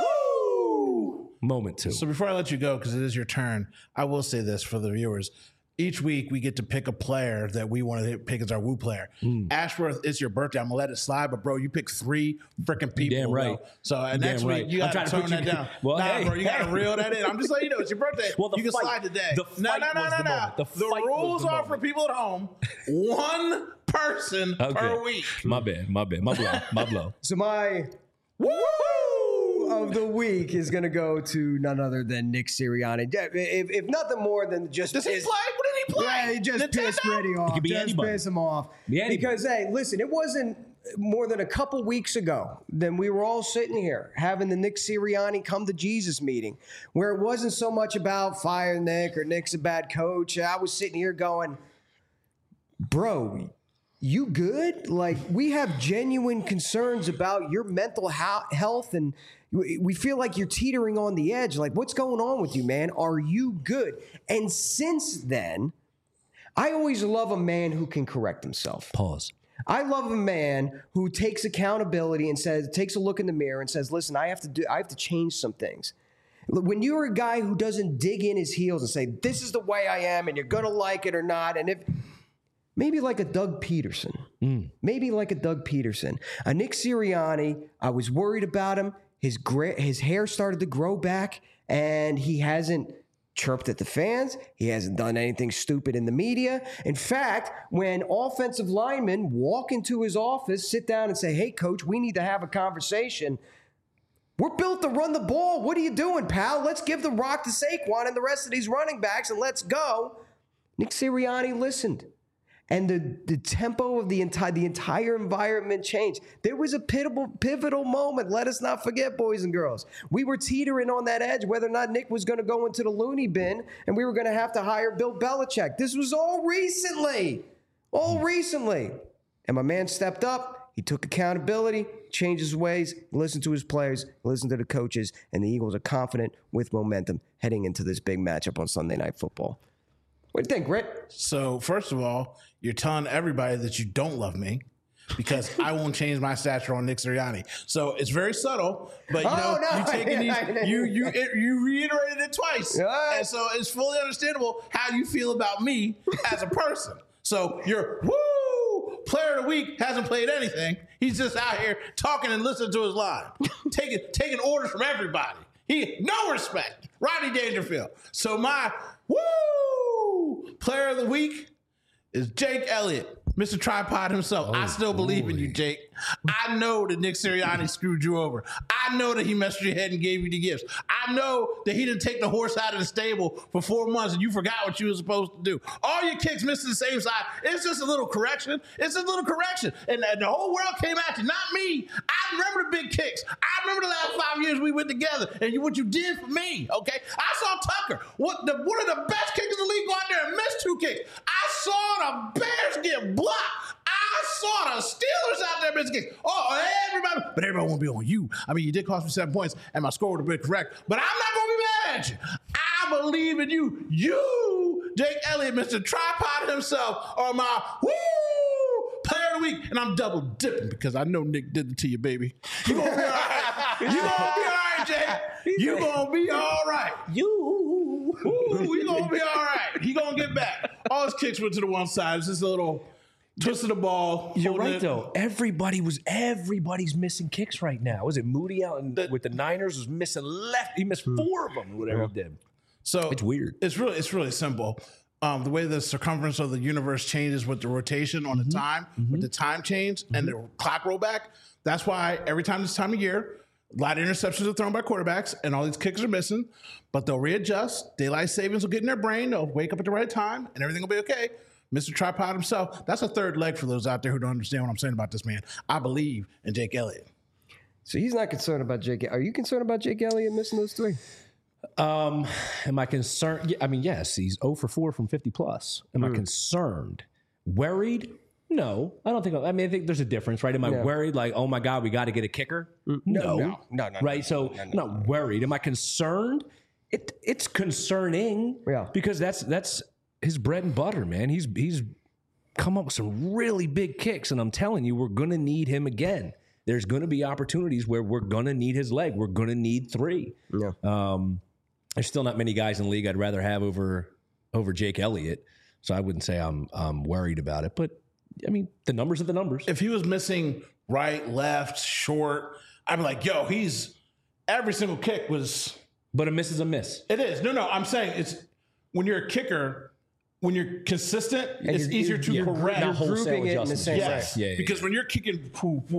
woo moment to. So before I let you go, because it is your turn, I will say this for the viewers. each week we get to pick a player that we want to pick as our woo player. Ashworth, it's your birthday. I'm gonna let it slide, but bro, you picked 3 freaking people. Damn right. Bro. So next week you got to tone that down. Well, bro, you got to reel that in. I'm just letting you know it's your birthday. Well, you can slide today. No. The rules are for people at home. 1 person per week. My bad. My blow. So my woo of the week is going to go to none other than Nick Sirianni. If nothing more than just does he play? What did he play? Yeah, he just pissed Freddie off. It could be just anybody. piss him off. Anybody. Because hey, listen, it wasn't more than a couple weeks ago then we were all sitting here having the Nick Sirianni come to Jesus meeting, where it wasn't so much about fire Nick or Nick's a bad coach. I was sitting here going, bro, you good? Like, we have genuine concerns about your mental health, and we feel like you're teetering on the edge. Like, what's going on with you, man? Are you good? And since then, I always love a man who can correct himself. Pause. I love a man who takes accountability and takes a look in the mirror and says, listen, I have to change some things. When you're a guy who doesn't dig in his heels and say, this is the way I am and you're going to like it or not, and if maybe like a Doug Peterson. Maybe like a Doug Peterson. A Nick Sirianni, I was worried about him. His hair started to grow back, and he hasn't chirped at the fans. He hasn't done anything stupid in the media. In fact, when offensive linemen walk into his office, sit down and say, hey, coach, we need to have a conversation. We're built to run the ball. What are you doing, pal? Let's give the rock to Saquon and the rest of these running backs, and let's go. Nick Sirianni listened. And the tempo of the entire environment changed. There was a pivotal moment. Let us not forget, boys and girls. We were teetering on that edge whether or not Nick was going to go into the loony bin and we were going to have to hire Bill Belichick. This was all recently. And my man stepped up. He took accountability, changed his ways, listened to his players, listened to the coaches, and the Eagles are confident with momentum heading into this big matchup on Sunday Night Football. What do you think, Rick? So, first of all, you're telling everybody that you don't love me because I won't change my stature on Nick Sirianni. So it's very subtle, but you taking these, you reiterated it twice, and so it's fully understandable how you feel about me as a person. So your player of the week hasn't played anything. He's just out here talking and listening to his line, taking orders from everybody. No respect. Rodney Dangerfield. So my player of the week is Jake Elliott, Mr. Tripod himself. I still believe in you, Jake. I know that Nick Sirianni screwed you over. I know that he messed with your head and gave you the gifts. I know that he didn't take the horse out of the stable for 4 months and you forgot what you were supposed to do. All your kicks missed the same side. It's just a little correction. And the whole world came at you, not me. I remember the big kicks. I remember the last 5 years we went together and what you did for me, okay? I saw Tucker, one of the best kickers in the league, go out there and miss 2 kicks. I saw the Bears get blocked. I saw the Steelers out there missing kicks. But everybody won't be on you. I mean, you did cost me 7 points, and my score would have been correct. But I'm not going to be mad at you. I believe in you. You, Jake Elliott, Mr. Tripod himself, are my player of the week. And I'm double dipping because I know Nick did it to you, baby. You going to be all right. You going to be all right, Jake. You going to be all right. You going to be all right. He going to get back. All his kicks went to the one side. It's just a little twist of the ball. You're right, though. Everybody's missing kicks right now. Was it Moody out with the Niners was missing left? He missed 4 of them or whatever he did. So it's weird. It's really simple. The way the circumference of the universe changes with the rotation on the time, with the time change and the clock roll back. That's why every time this time of year, a lot of interceptions are thrown by quarterbacks and all these kickers are missing, but they'll readjust. Daylight savings will get in their brain. They'll wake up at the right time and everything will be okay. Mr. Tripod himself, that's a third leg for those out there who don't understand what I'm saying about this man. I believe in Jake Elliott. So he's not concerned about Jake. Are you concerned about Jake Elliott missing those 3? Am I concerned? I mean, yes, he's 0 for 4 from 50 plus. Am I concerned? Worried? No, I don't think. I think there's a difference, right? Am I worried? Like, oh my God, we got to get a kicker? No. Right? So I'm not worried. Am I concerned? It's concerning. Yeah. Because that's his bread and butter, man. He's come up with some really big kicks, and I'm telling you, we're going to need him again. There's going to be opportunities where we're going to need his leg. We're going to need 3. Yeah. There's still not many guys in the league I'd rather have over Jake Elliott. So I wouldn't say I'm worried about it. But, I mean, the numbers are the numbers. If he was missing right, left, short, I'd be like, yo, every single kick was. But a miss is a miss. It is. No, I'm saying it's when you're a kicker, when you're consistent, it's easier to correct. You're grouping it in the same way. Yes. Yeah, because when you're kicking,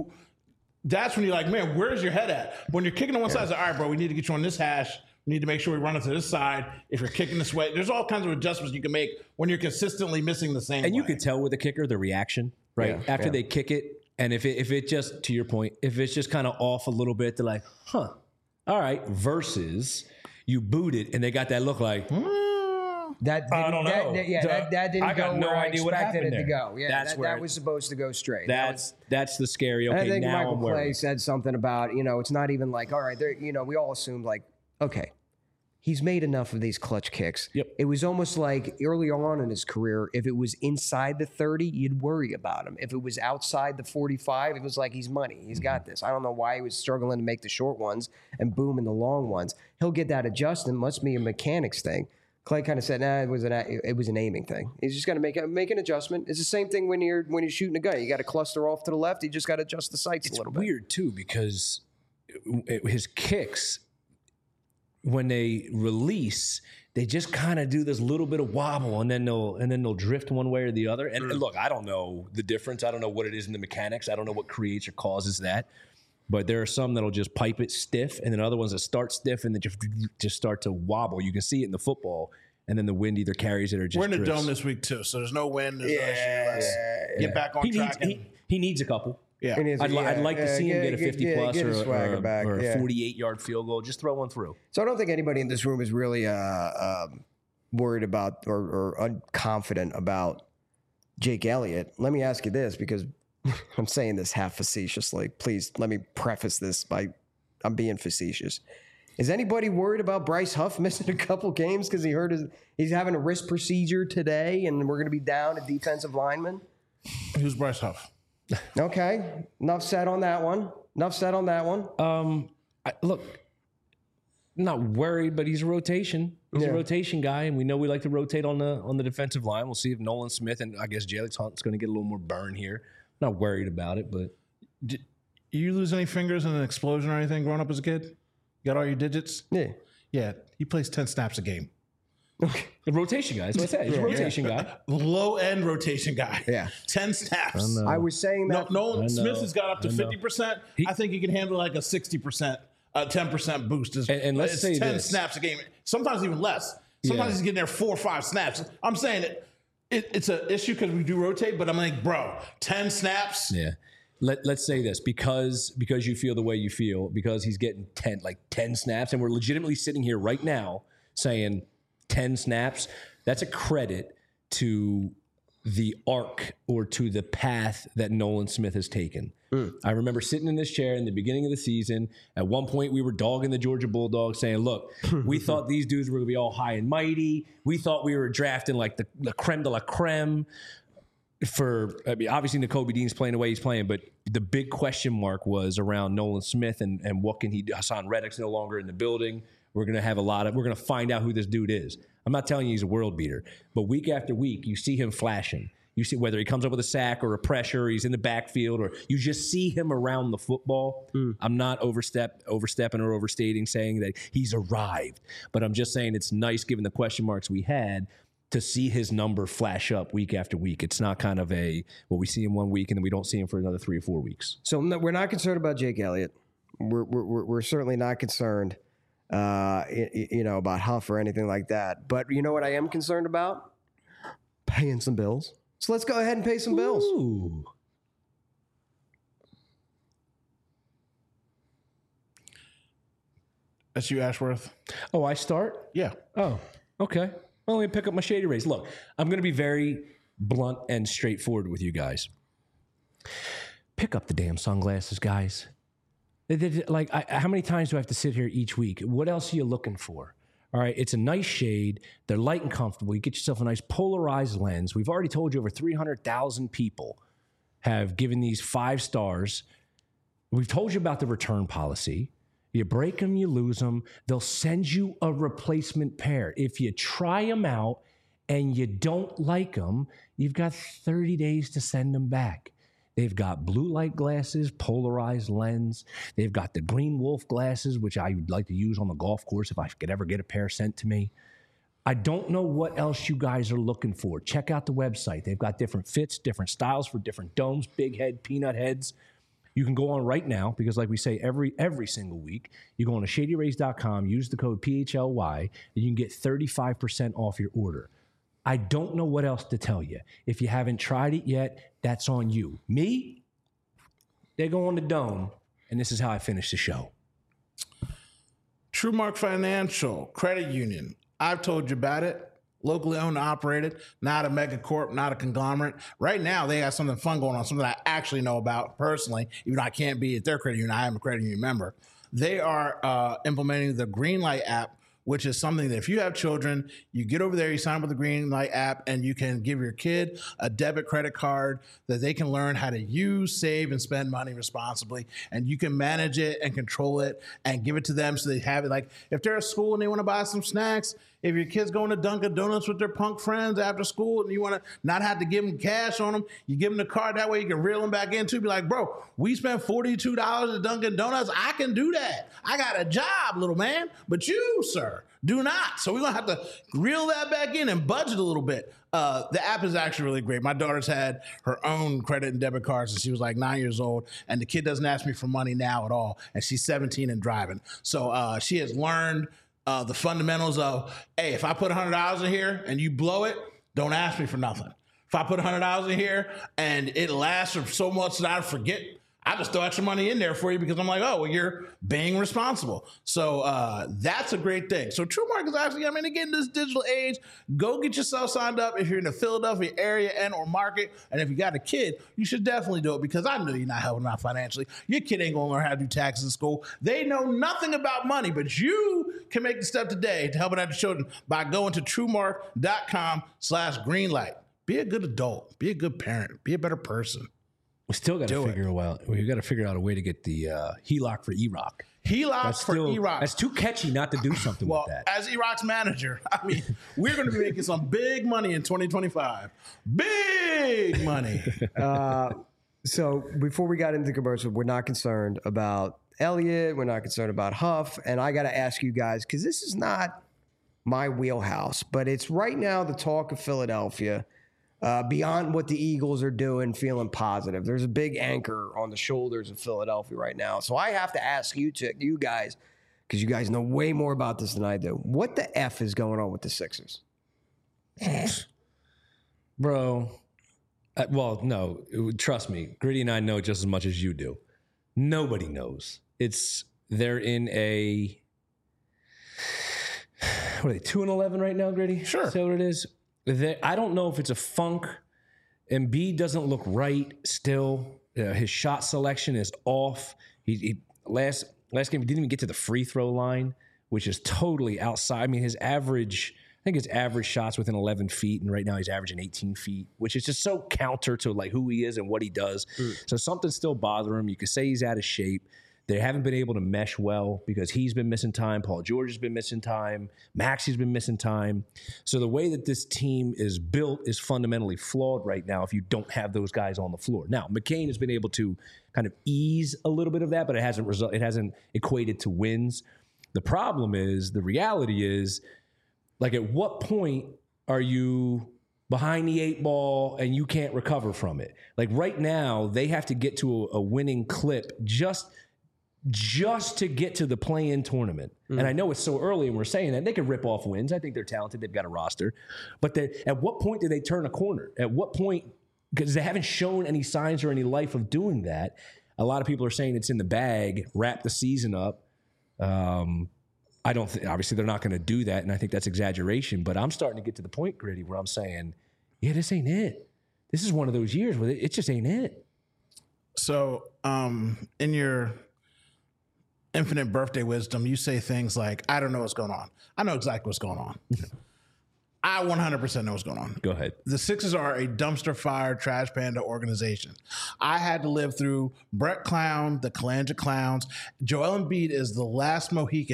that's when you're like, man, where's your head at? When you're kicking on one side, it's like, all right, bro, we need to get you on this hash. We need to make sure we run it to this side. If you're kicking this way, there's all kinds of adjustments you can make when you're consistently missing the same And way. you could tell with the kicker, the reaction, right? Yeah, After they kick it, and if it just, to your point, if it's just kind of off a little bit, they're like, huh, all right, versus you boot it and they got that look like, That I don't know. That didn't I got go no where I idea what expected it happened to there. go. Yeah, That's where that was supposed to go straight. that's the scary. I Okay, think now Michael I'm Clay worried. said something about, it's not even like, all right, we all assumed like, okay, he's made enough of these clutch kicks. Yep. It was almost like early on in his career, if it was inside the 30, you'd worry about him. If it was outside the 45, it was like, he's money. He's got this. I don't know why he was struggling to make the short ones and boom in the long ones. He'll get that adjustment. Must be a mechanics thing. Clay kind of said, nah, it was an aiming thing. He's just got to make an adjustment. It's the same thing when you're shooting a gun. You got to cluster off to the left. You just got to adjust the sights a little bit. It's weird too because his kicks, when they release, they just kind of do this little bit of wobble, and then they'll drift one way or the other. And look, I don't know the difference. I don't know what it is in the mechanics. I don't know what creates or causes that. But there are some that'll just pipe it stiff, and then other ones that start stiff and then just start to wobble. You can see it in the football, and then the wind either carries it or just We're in the drifts. dome this week too, so there's no wind. There's no issue. Let's get back on track. He needs a couple. Yeah. I'd like to see him get a 50-plus get his swagger back, or a 48-yard field goal. Just throw one through. So I don't think anybody in this room is really worried about or unconfident about Jake Elliott. Let me ask you this, because I'm saying this half facetiously. Please let me preface this by I'm being facetious. Is anybody worried about Bryce Huff missing a couple games because he's having a wrist procedure today and we're going to be down a defensive lineman? Who's Bryce Huff? Okay, enough said on that one. Look, I'm not worried, but he's a rotation. He's a rotation guy, and we know we like to rotate on the defensive line. We'll see if Nolan Smith and I guess Jalen Hunt's going to get a little more burn here. Not worried about it, but Did you lose any fingers in an explosion or anything growing up as a kid? You got all your digits? Yeah. Yeah, he plays 10 snaps a game. the rotation guy. That's what I said. He's a rotation guy. Low end rotation guy. Yeah. 10 snaps. I was saying that. Nolan Smith has got up to 50%. I think he can handle like a 60%, 10% boost. And let's it's say 10 this. snaps a game. Sometimes even less. Sometimes he's getting there 4 or 5 snaps. I'm saying it's an issue because we do rotate, but I'm like, bro, 10 snaps. Yeah. Let's say this because you feel the way you feel, because he's getting 10 snaps, and we're legitimately sitting here right now saying 10 snaps. That's a credit to the arc or to the path that Nolan Smith has taken. I remember sitting in this chair in the beginning of the season. At one point, we were dogging the Georgia Bulldogs, saying, look, we thought these dudes were going to be all high and mighty. We thought we were drafting like the creme de la creme. Obviously, Nakobe Dean's playing the way he's playing, but the big question mark was around Nolan Smith and what can he do. Hassan Reddick's no longer in the building. We're going to find out who this dude is. I'm not telling you he's a world beater, but week after week, you see him flashing. You see whether he comes up with a sack or a pressure, or he's in the backfield, or you just see him around the football. I'm not overstepping or overstating saying that he's arrived, but I'm just saying it's nice given the question marks we had to see his number flash up week after week. It's not kind of we see him one week and then we don't see him for another 3 or 4 weeks. So we're not concerned about Jake Elliott. We're certainly not concerned, about Huff or anything like that. But you know what I am concerned about? Paying some bills. So let's go ahead and pay some bills. Ooh. That's you, Ashworth. Oh, I start? Yeah. Oh, okay. Well, let me pick up my Shady Rays. Look, I'm going to be very blunt and straightforward with you guys. Pick up the damn sunglasses, guys. How many times do I have to sit here each week? What else are you looking for? All right, it's a nice shade. They're light and comfortable. You get yourself a nice polarized lens. We've already told you over 300,000 people have given these 5 stars. We've told you about the return policy. You break them, you lose them. They'll send you a replacement pair. If you try them out and you don't like them, you've got 30 days to send them back. They've got blue light glasses, polarized lens. They've got the Green Wolf glasses, which I would like to use on the golf course if I could ever get a pair sent to me. I don't know what else you guys are looking for. Check out the website. They've got different fits, different styles for different domes, big head, peanut heads. You can go on right now because, like we say every single week, you go on to shadyrays.com, use the code PHLY, and you can get 35% off your order. I don't know what else to tell you. If you haven't tried it yet, that's on you. Me, they go on the dome, and this is how I finish the show. TrueMark Financial Credit Union. I've told you about it. Locally owned and operated, not a mega corp, not a conglomerate. Right now, they have something fun going on, something I actually know about personally, even though I can't be at their credit union. I am a credit union member. They are implementing the Greenlight app, which is something that if you have children, you get over there, you sign up with the Greenlight app, and you can give your kid a debit credit card that they can learn how to use, save, and spend money responsibly. And you can manage it and control it and give it to them so they have it. Like if they're at school and they want to buy some snacks, if your kid's going to Dunkin' Donuts with their punk friends after school and you want to not have to give them cash on them, you give them the card. That way you can reel them back in too. Be like, bro, we spent $42 at Dunkin' Donuts. I can do that. I got a job, little man. But you, sir, do not. So we're going to have to reel that back in and budget a little bit. The app is actually really great. My daughter's had her own credit and debit cards since she was like 9 years old, and the kid doesn't ask me for money now at all, and she's 17 and driving. So she has learned the fundamentals of, hey, if I put $100 in here and you blow it, don't ask me for nothing. If I put $100 in here and it lasts for so much that I forget, I just throw extra money in there for you because I'm like, oh, well, you're being responsible. So that's a great thing. So TrueMark is actually, I mean, again, this digital age, go get yourself signed up if you're in the Philadelphia area and or market. And if you got a kid, you should definitely do it because I know you're not helping them out financially. Your kid ain't going to learn how to do taxes in school. They know nothing about money, but you can make the step today to help out your children by going to TrueMark.com/greenlight. Be a good adult. Be a good parent. Be a better person. We still got to figure out. We got to figure out a way to get the HELOC for E-Rock. HELOC for E-Rock. That's too catchy not to do something with that. As E-Rock's manager, I mean, we're going to be making some big money in 2025. Big money. So before we got into the commercial, we're not concerned about Elliott. We're not concerned about Huff. And I got to ask you guys, because this is not my wheelhouse, but it's right now the talk of Philadelphia. Beyond what the Eagles are doing, feeling positive. There's a big anchor on the shoulders of Philadelphia right now. So I have to ask you guys, because you guys know way more about this than I do. What the F is going on with the Sixers? Bro, well, no, trust me. Gritty and I know just as much as you do. Nobody knows. They're in a, what are they, 2-11 right now, Gritty? Sure. Is that what it is? I don't know if it's a funk. Embiid doesn't look right still. His shot selection is off. He last game he didn't even get to the free throw line, which is totally outside. I mean, I think his average shots within 11 feet, and right now he's averaging 18 feet, which is just so counter to like who he is and what he does. So something's still bothering him. You could say he's out of shape. They haven't been able to mesh well because he's been missing time. Paul George has been missing time. Maxey's been missing time. So the way that this team is built is fundamentally flawed right now if you don't have those guys on the floor. Now, McCain has been able to kind of ease a little bit of that, but it hasn't equated to wins. The problem is, the reality is, like, at what point are you behind the 8 ball and you can't recover from it? Like right now, they have to get to a winning clip just to get to the play-in tournament. And I know it's so early and we're saying that. They can rip off wins. I think they're talented. They've got a roster. But at what point do they turn a corner? At what point, because they haven't shown any signs or any life of doing that. A lot of people are saying it's in the bag, wrap the season up. I don't think, obviously they're not going to do that, and I think that's exaggeration, but I'm starting to get to the point, Gritty, where I'm saying, yeah, this ain't it. This is one of those years where it just ain't it. So in your infinite birthday wisdom, you say things like, I don't know what's going on. I know exactly what's going on. I 100% know what's going on. Go ahead. The Sixers are a dumpster fire, trash panda organization. I had to live through Brett Clown, the Kalanja Clowns. Joel Embiid is the last Mohican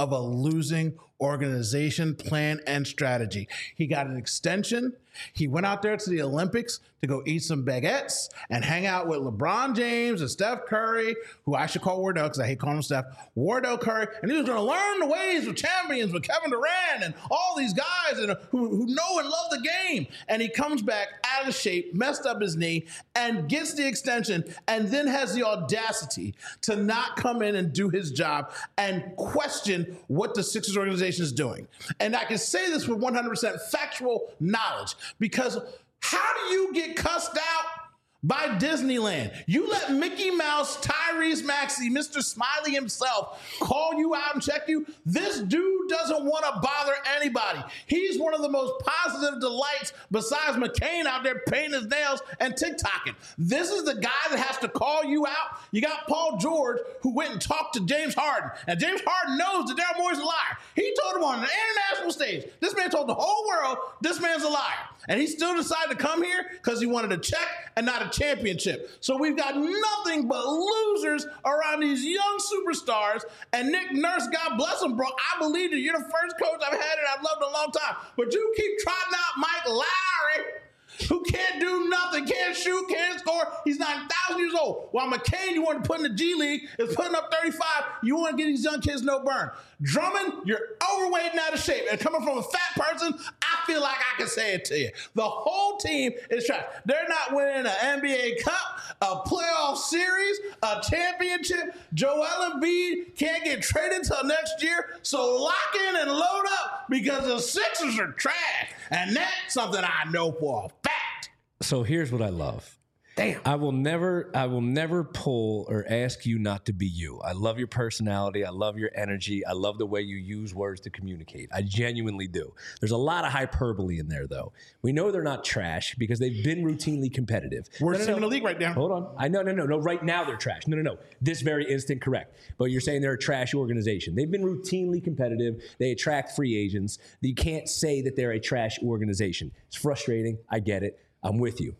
of a losing organization, plan, and strategy. He got an extension. He went out there to the Olympics to go eat some baguettes and hang out with LeBron James and Steph Curry, who I should call Wardell because I hate calling him Steph, Wardell Curry. And he was going to learn the ways of champions with Kevin Durant and all these guys who know and love the game. And he comes back out of shape, messed up his knee, and gets the extension, and then has the audacity to not come in and do his job and question what the Sixers organization is doing. And I can say this with 100% factual knowledge, because how do you get cussed out by Disneyland? You let Mickey Mouse, Tyrese Maxey, Mr. Smiley himself call you out and check you. This dude doesn't want to bother anybody. He's one of the most positive delights besides McCain out there painting his nails and TikToking. This is the guy that has to call you out. You got Paul George, who went and talked to James Harden, and James Harden knows that Daryl Morey's a liar. He told him on an international stage. This man told the whole world this man's a liar. And he still decided to come here because he wanted a check and not a championship. So we've got nothing but losers around these young superstars. And Nick Nurse, God bless him, bro. I believe that you're the first coach I've had and I've loved in a long time. But you keep trotting out Mike Lowry, who can't do nothing, can't shoot, can't score. He's 9,000 years old. While McCain, you want to put in the G League, is putting up 35. You want to get these young kids no burn. Drummond, you're overweight and out of shape. And coming from a fat person, I feel like I can say it to you. The whole team is trash. They're not winning an NBA Cup, a playoff series, a championship. Joel Embiid can't get traded till next year. So lock in and load up, because the Sixers are trash. And that's something I know for a fact. So here's what I love. Damn. I will never pull or ask you not to be you. I love your personality. I love your energy. I love the way you use words to communicate. I genuinely do. There's a lot of hyperbole in there, though. We know they're not trash because they've been routinely competitive. Worst team in the league right now. Hold on. No. Right now they're trash. No. This very instant, correct. But you're saying they're a trash organization. They've been routinely competitive. They attract free agents. You can't say that they're a trash organization. It's frustrating. I get it. I'm with you.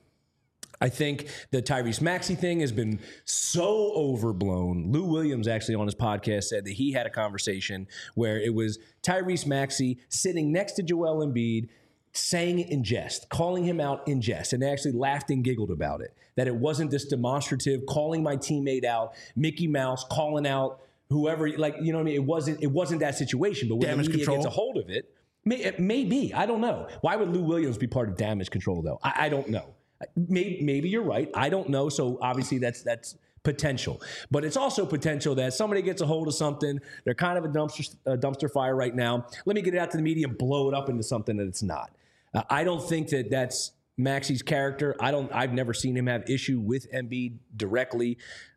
I think the Tyrese Maxey thing has been so overblown. Lou Williams actually on his podcast said that he had a conversation where it was Tyrese Maxey sitting next to Joel Embiid, saying it in jest, calling him out in jest, and they actually laughed and giggled about it. That it wasn't this demonstrative, calling my teammate out, Mickey Mouse calling out whoever, like, you know what I mean? It wasn't that situation, but when damage the media control gets a hold of it, maybe, I don't know. Why would Lou Williams be part of damage control, though? I don't know. Maybe you're right. I don't know. So obviously that's potential. But it's also potential that somebody gets a hold of something. They're kind of a dumpster fire right now. Let me get it out to the media and blow it up into something that it's not. I don't think that that's Maxey's character. I've never seen him have issue with Embiid directly.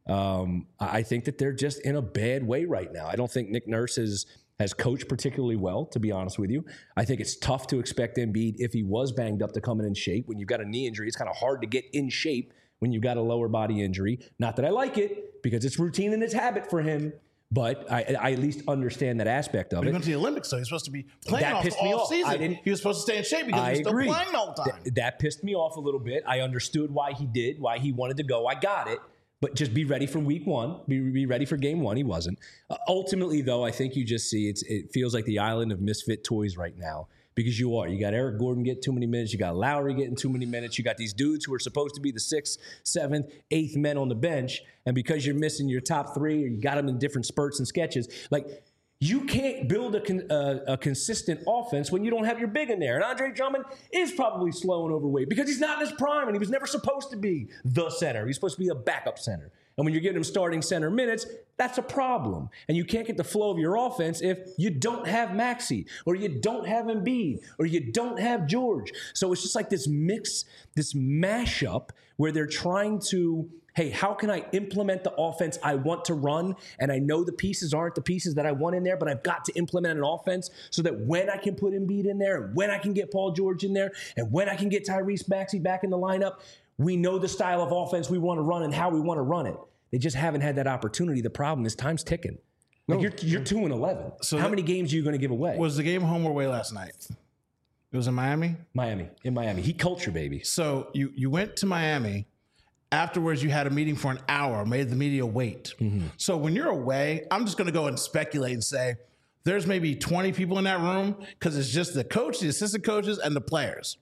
I think that they're just in a bad way right now. I don't think Nick Nurse has coached particularly well, to be honest with you. I think it's tough to expect Embiid, if he was banged up, to come in shape. When you've got a knee injury, it's kind of hard to get in shape when you've got a lower body injury. Not that I like it, because it's routine and it's habit for him, but I at least understand that aspect of it. He went to the Olympics, so he's supposed to be playing all season. He was supposed to stay in shape because he's still playing all the time. That pissed me off a little bit. I understood why he wanted to go. I got it. But just be ready for week one. Be ready for game one. He wasn't. Ultimately, though, I think you just see it feels like the island of misfit toys right now, because you are. You got Eric Gordon getting too many minutes. You got Lowry getting too many minutes. You got these dudes who are supposed to be the 6th, 7th, 8th men on the bench. And because you're missing your top 3, or you got them in different spurts and sketches, like, you can't build a consistent offense when you don't have your big in there. And Andre Drummond is probably slow and overweight because he's not in his prime, and he was never supposed to be the center. He's supposed to be a backup center. And when you're getting him starting center minutes, that's a problem. And you can't get the flow of your offense if you don't have Maxey, or you don't have Embiid, or you don't have George. So it's just like this mix, this mashup where they're trying to, hey, how can I implement the offense I want to run? And I know the pieces aren't the pieces that I want in there, but I've got to implement an offense so that when I can put Embiid in there, and when I can get Paul George in there, and when I can get Tyrese Maxey back in the lineup, we know the style of offense we want to run and how we want to run it. They just haven't had that opportunity. The problem is time's ticking. Like, you're 2-11. So how many games are you going to give away? Was the game home or away last night? It was in Miami? In Miami. Heat culture, baby. So you went to Miami. Afterwards, you had a meeting for an hour, made the media wait. Mm-hmm. So when you're away, I'm just going to go and speculate and say there's maybe 20 people in that room because it's just the coach, the assistant coaches, and the players.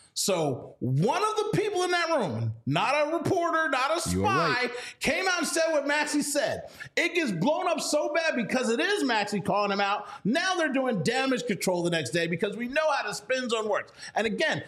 So one of the people in that room, not a reporter, not a spy, came out and said what Maxey said. It gets blown up so bad because it is Maxey calling him out. Now they're doing damage control the next day because we know how the spin zone works. And again,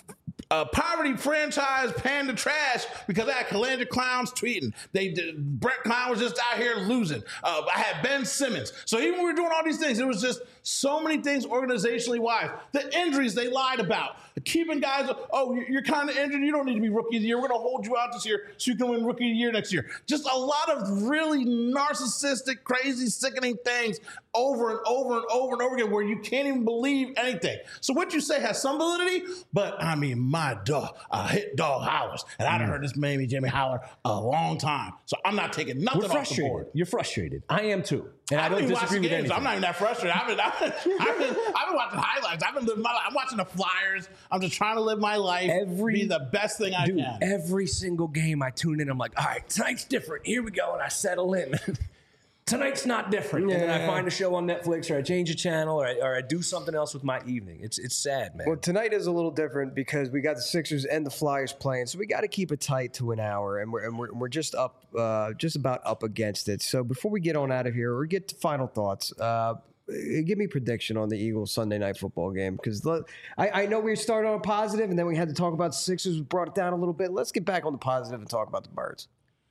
poverty franchise panned the trash because I had Calandra Clowns tweeting. Brett Klein was just out here losing. I had Ben Simmons. So even when we were doing all these things, it was just so many things organizationally wise. The injuries they lied about. Keeping guys, you're kind of injured. You don't need to be rookie of the year. We're going to hold you out this year so you can win rookie of the year next year. Just a lot of really narcissistic, crazy, sickening things over and over and over and over again where you can't even believe anything. So what you say has some validity, but I mean, my dog, hit dog hollers. And I've heard this Jamie Howler a long time. So I'm not taking nothing off the board. You're frustrated. I am too. And I don't disagree with anything. I'm not even that frustrated. I've been watching highlights. I've been living my life. I'm watching the Flyers. I'm just trying to live my life, be the best thing I can. Every single game I tune in, I'm like, all right, tonight's different. Here we go. And I settle in. Tonight's not different. Yeah. And then I find a show on Netflix or I change a channel or I do something else with my evening. It's sad, man. Well, tonight is a little different because we got the Sixers and the Flyers playing, so we got to keep it tight to an hour, and we're just up, just about up against it. So before we get on out of here or get to final thoughts, give me a prediction on the Eagles Sunday night football game because I know we started on a positive and then we had to talk about the Sixers. We brought it down a little bit. Let's get back on the positive and talk about the Birds.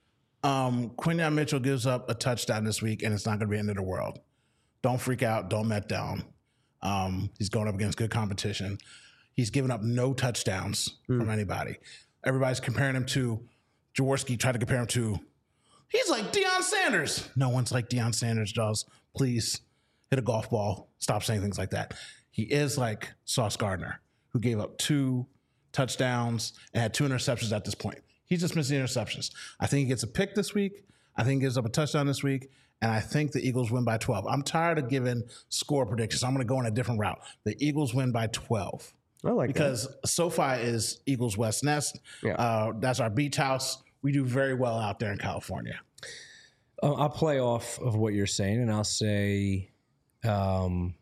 Quinyon Mitchell gives up a touchdown this week, and it's not going to be the end of the world. Don't freak out. Don't let down. He's going up against good competition. He's given up no touchdowns from anybody. Everybody's comparing him to Jaworski. Tried to compare him to. He's like Deion Sanders. No one's like Deion Sanders, Jaws. Please hit a golf ball. Stop saying things like that. He is like Sauce Gardner, who gave up 2 touchdowns and had 2 interceptions at this point. He's just missing interceptions. I think he gets a pick this week. I think he gives up a touchdown this week. And I think the Eagles win by 12. I'm tired of giving score predictions. I'm going to go on a different route. The Eagles win by 12. I like because that. SoFi is Eagles West Nest. Yeah. That's our beach house. We do very well out there in California. I'll play off of what you're saying, and I'll say Jalen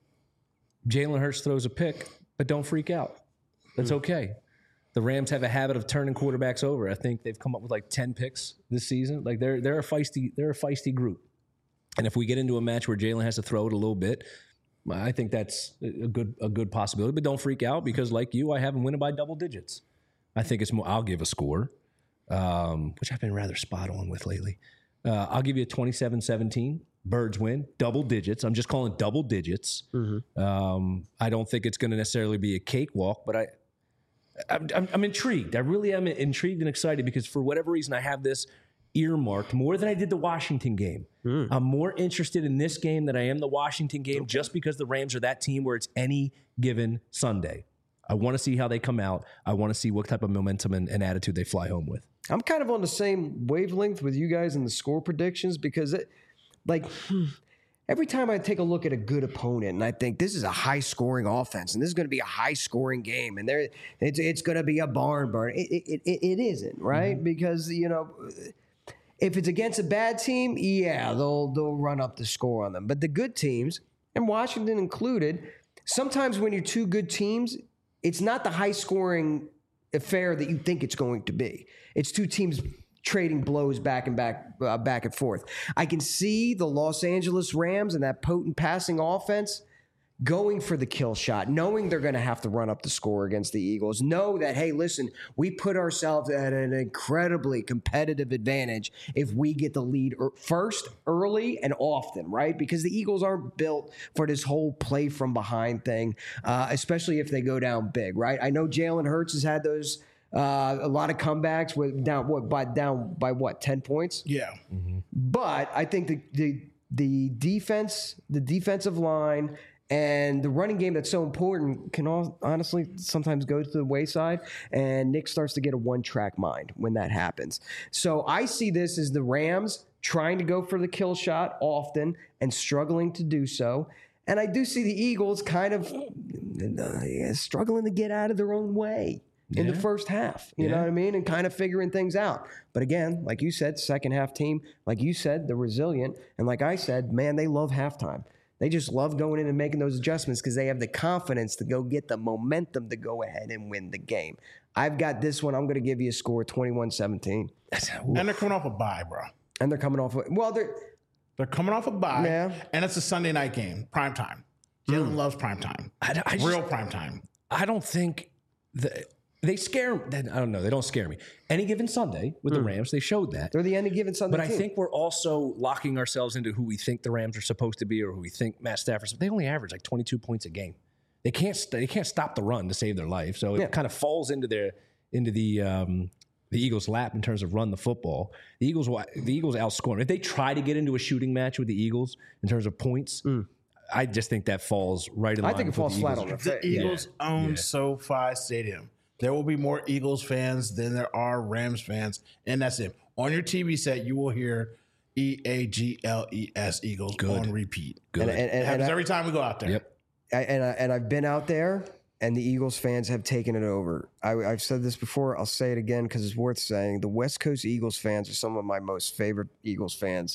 Hurts throws a pick, but don't freak out. That's okay. The Rams have a habit of turning quarterbacks over. I think they've come up with like 10 picks this season. Like they're a feisty group. And if we get into a match where Jalen has to throw it a little bit, I think that's a good possibility. But don't freak out because, like you, I have them winning by double digits. I think it's more. I'll give a score, which I've been rather spot on with lately. I'll give you a 27-17. Birds win double digits. I'm just calling double digits. Mm-hmm. I don't think it's going to necessarily be a cakewalk, but I'm intrigued. I really am intrigued and excited because for whatever reason, I have this earmarked more than I did the Washington game. I'm more interested in this game than I am the Washington game just because the Rams are that team where it's any given Sunday. I want to see how they come out. I want to see what type of momentum and attitude they fly home with. I'm kind of on the same wavelength with you guys in the score predictions because every time I take a look at a good opponent and I think this is a high-scoring offense and this is going to be a high-scoring game and it's going to be a barn burner, it isn't, right? Mm-hmm. Because, if it's against a bad team, yeah, they'll run up the score on them. But the good teams, and Washington included, sometimes when you're 2 good teams, it's not the high-scoring affair that you think it's going to be. It's 2 teams trading blows back and forth. I can see the Los Angeles Rams and that potent passing offense going for the kill shot, knowing they're going to have to run up the score against the Eagles. Know that, hey, listen, we put ourselves at an incredibly competitive advantage if we get the lead first, early, and often, right? Because the Eagles aren't built for this whole play from behind thing, especially if they go down big, right? I know Jalen Hurts has had those a lot of comebacks with down by 10 points? Yeah. Mm-hmm. But I think the defensive line and the running game that's so important can honestly sometimes go to the wayside, and Nick starts to get a one-track mind when that happens. So I see this as the Rams trying to go for the kill shot often and struggling to do so. And I do see the Eagles kind of struggling to get out of their own way in the first half, you know what I mean? And kind of figuring things out. But again, like you said, second half team, like you said, they're resilient. And like I said, man, they love halftime. They just love going in and making those adjustments because they have the confidence to go get the momentum to go ahead and win the game. I've got this one. I'm going to give you a score 21-17. And they're coming off a bye, bro. And they're coming off. Well, They're coming off a bye. Yeah. And it's a Sunday night game, prime time. Jalen loves prime time. Real prime time. I don't think they scare. I don't know. They don't scare me. Any given Sunday with the Rams, they showed that. they're the any given Sunday But I team. think we're also locking ourselves into who we think the Rams are supposed to be or who we think Matt Stafford. They only average like 22 points a game. They can't stop the run to save their life. So it kind of falls into the Eagles' lap in terms of run the football. The Eagles outscore them. If they try to get into a shooting match with the Eagles in terms of points, I just think that falls right in line. I think it falls flat on their face. The Eagles own SoFi Stadium. There will be more Eagles fans than there are Rams fans, and that's it. On your TV set, you will hear EAGLES Eagles on repeat. Good. It happens every time we go out there. Yep. And I've been out there, and the Eagles fans have taken it over. I've said this before. I'll say it again because it's worth saying. The West Coast Eagles fans are some of my most favorite Eagles fans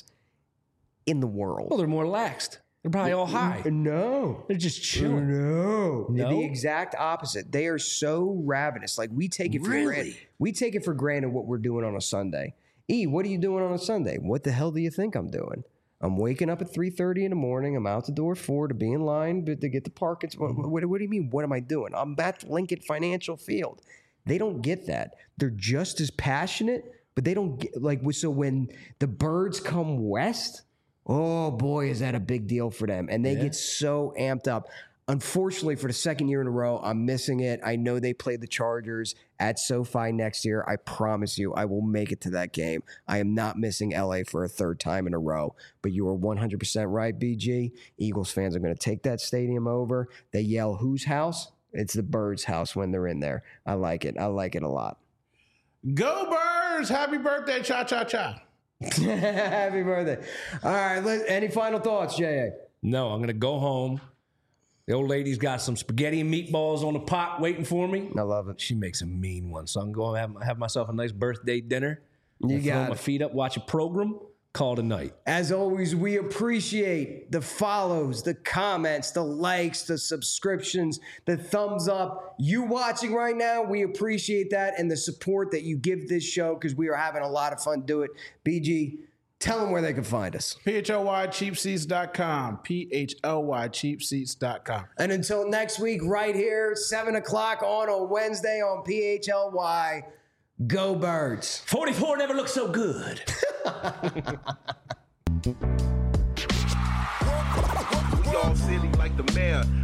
in the world. Well, they're more laxed. They're probably all high. No. They're just chilling. No. No? The exact opposite. They are so ravenous. Like we take it for granted. We take it for granted what we're doing on a Sunday. What are you doing on a Sunday? What the hell do you think I'm doing? I'm waking up at 3:30 in the morning. I'm out the door at 4 to be in line to get the parking. What do you mean? What am I doing? I'm at Lincoln Financial Field. They don't get that. They're just as passionate, but they don't get so when the Birds come west, oh boy, is that a big deal for them. And they get so amped up. Unfortunately, for the second year in a row, I'm missing it. I know they play the Chargers at SoFi next year. I promise you, I will make it to that game. I am not missing LA for a third time in a row. But you are 100% right, BG. Eagles fans are going to take that stadium over. They yell, whose house? It's the Birds' house when they're in there. I like it. I like it a lot. Go Birds! Happy birthday, cha-cha-cha. Happy birthday. All right, any final thoughts, J.A.? No, I'm going to go home. The old lady's got some spaghetti and meatballs on the pot waiting for me. I love it. She makes a mean one. So I'm going to have myself a nice birthday dinner. You got throw my feet up, watch a program, call it a night. As always, we appreciate the follows, the comments, the likes, the subscriptions, the thumbs up. You watching right now, we appreciate that and the support that you give this show because we are having a lot of fun doing it. BG, tell them where they can find us. PHLYcheapseats.com. PHLYcheapseats.com. And until next week, right here, 7 o'clock on a Wednesday on PHLY, go Birds. 44 never looked so good. We all silly like the mayor.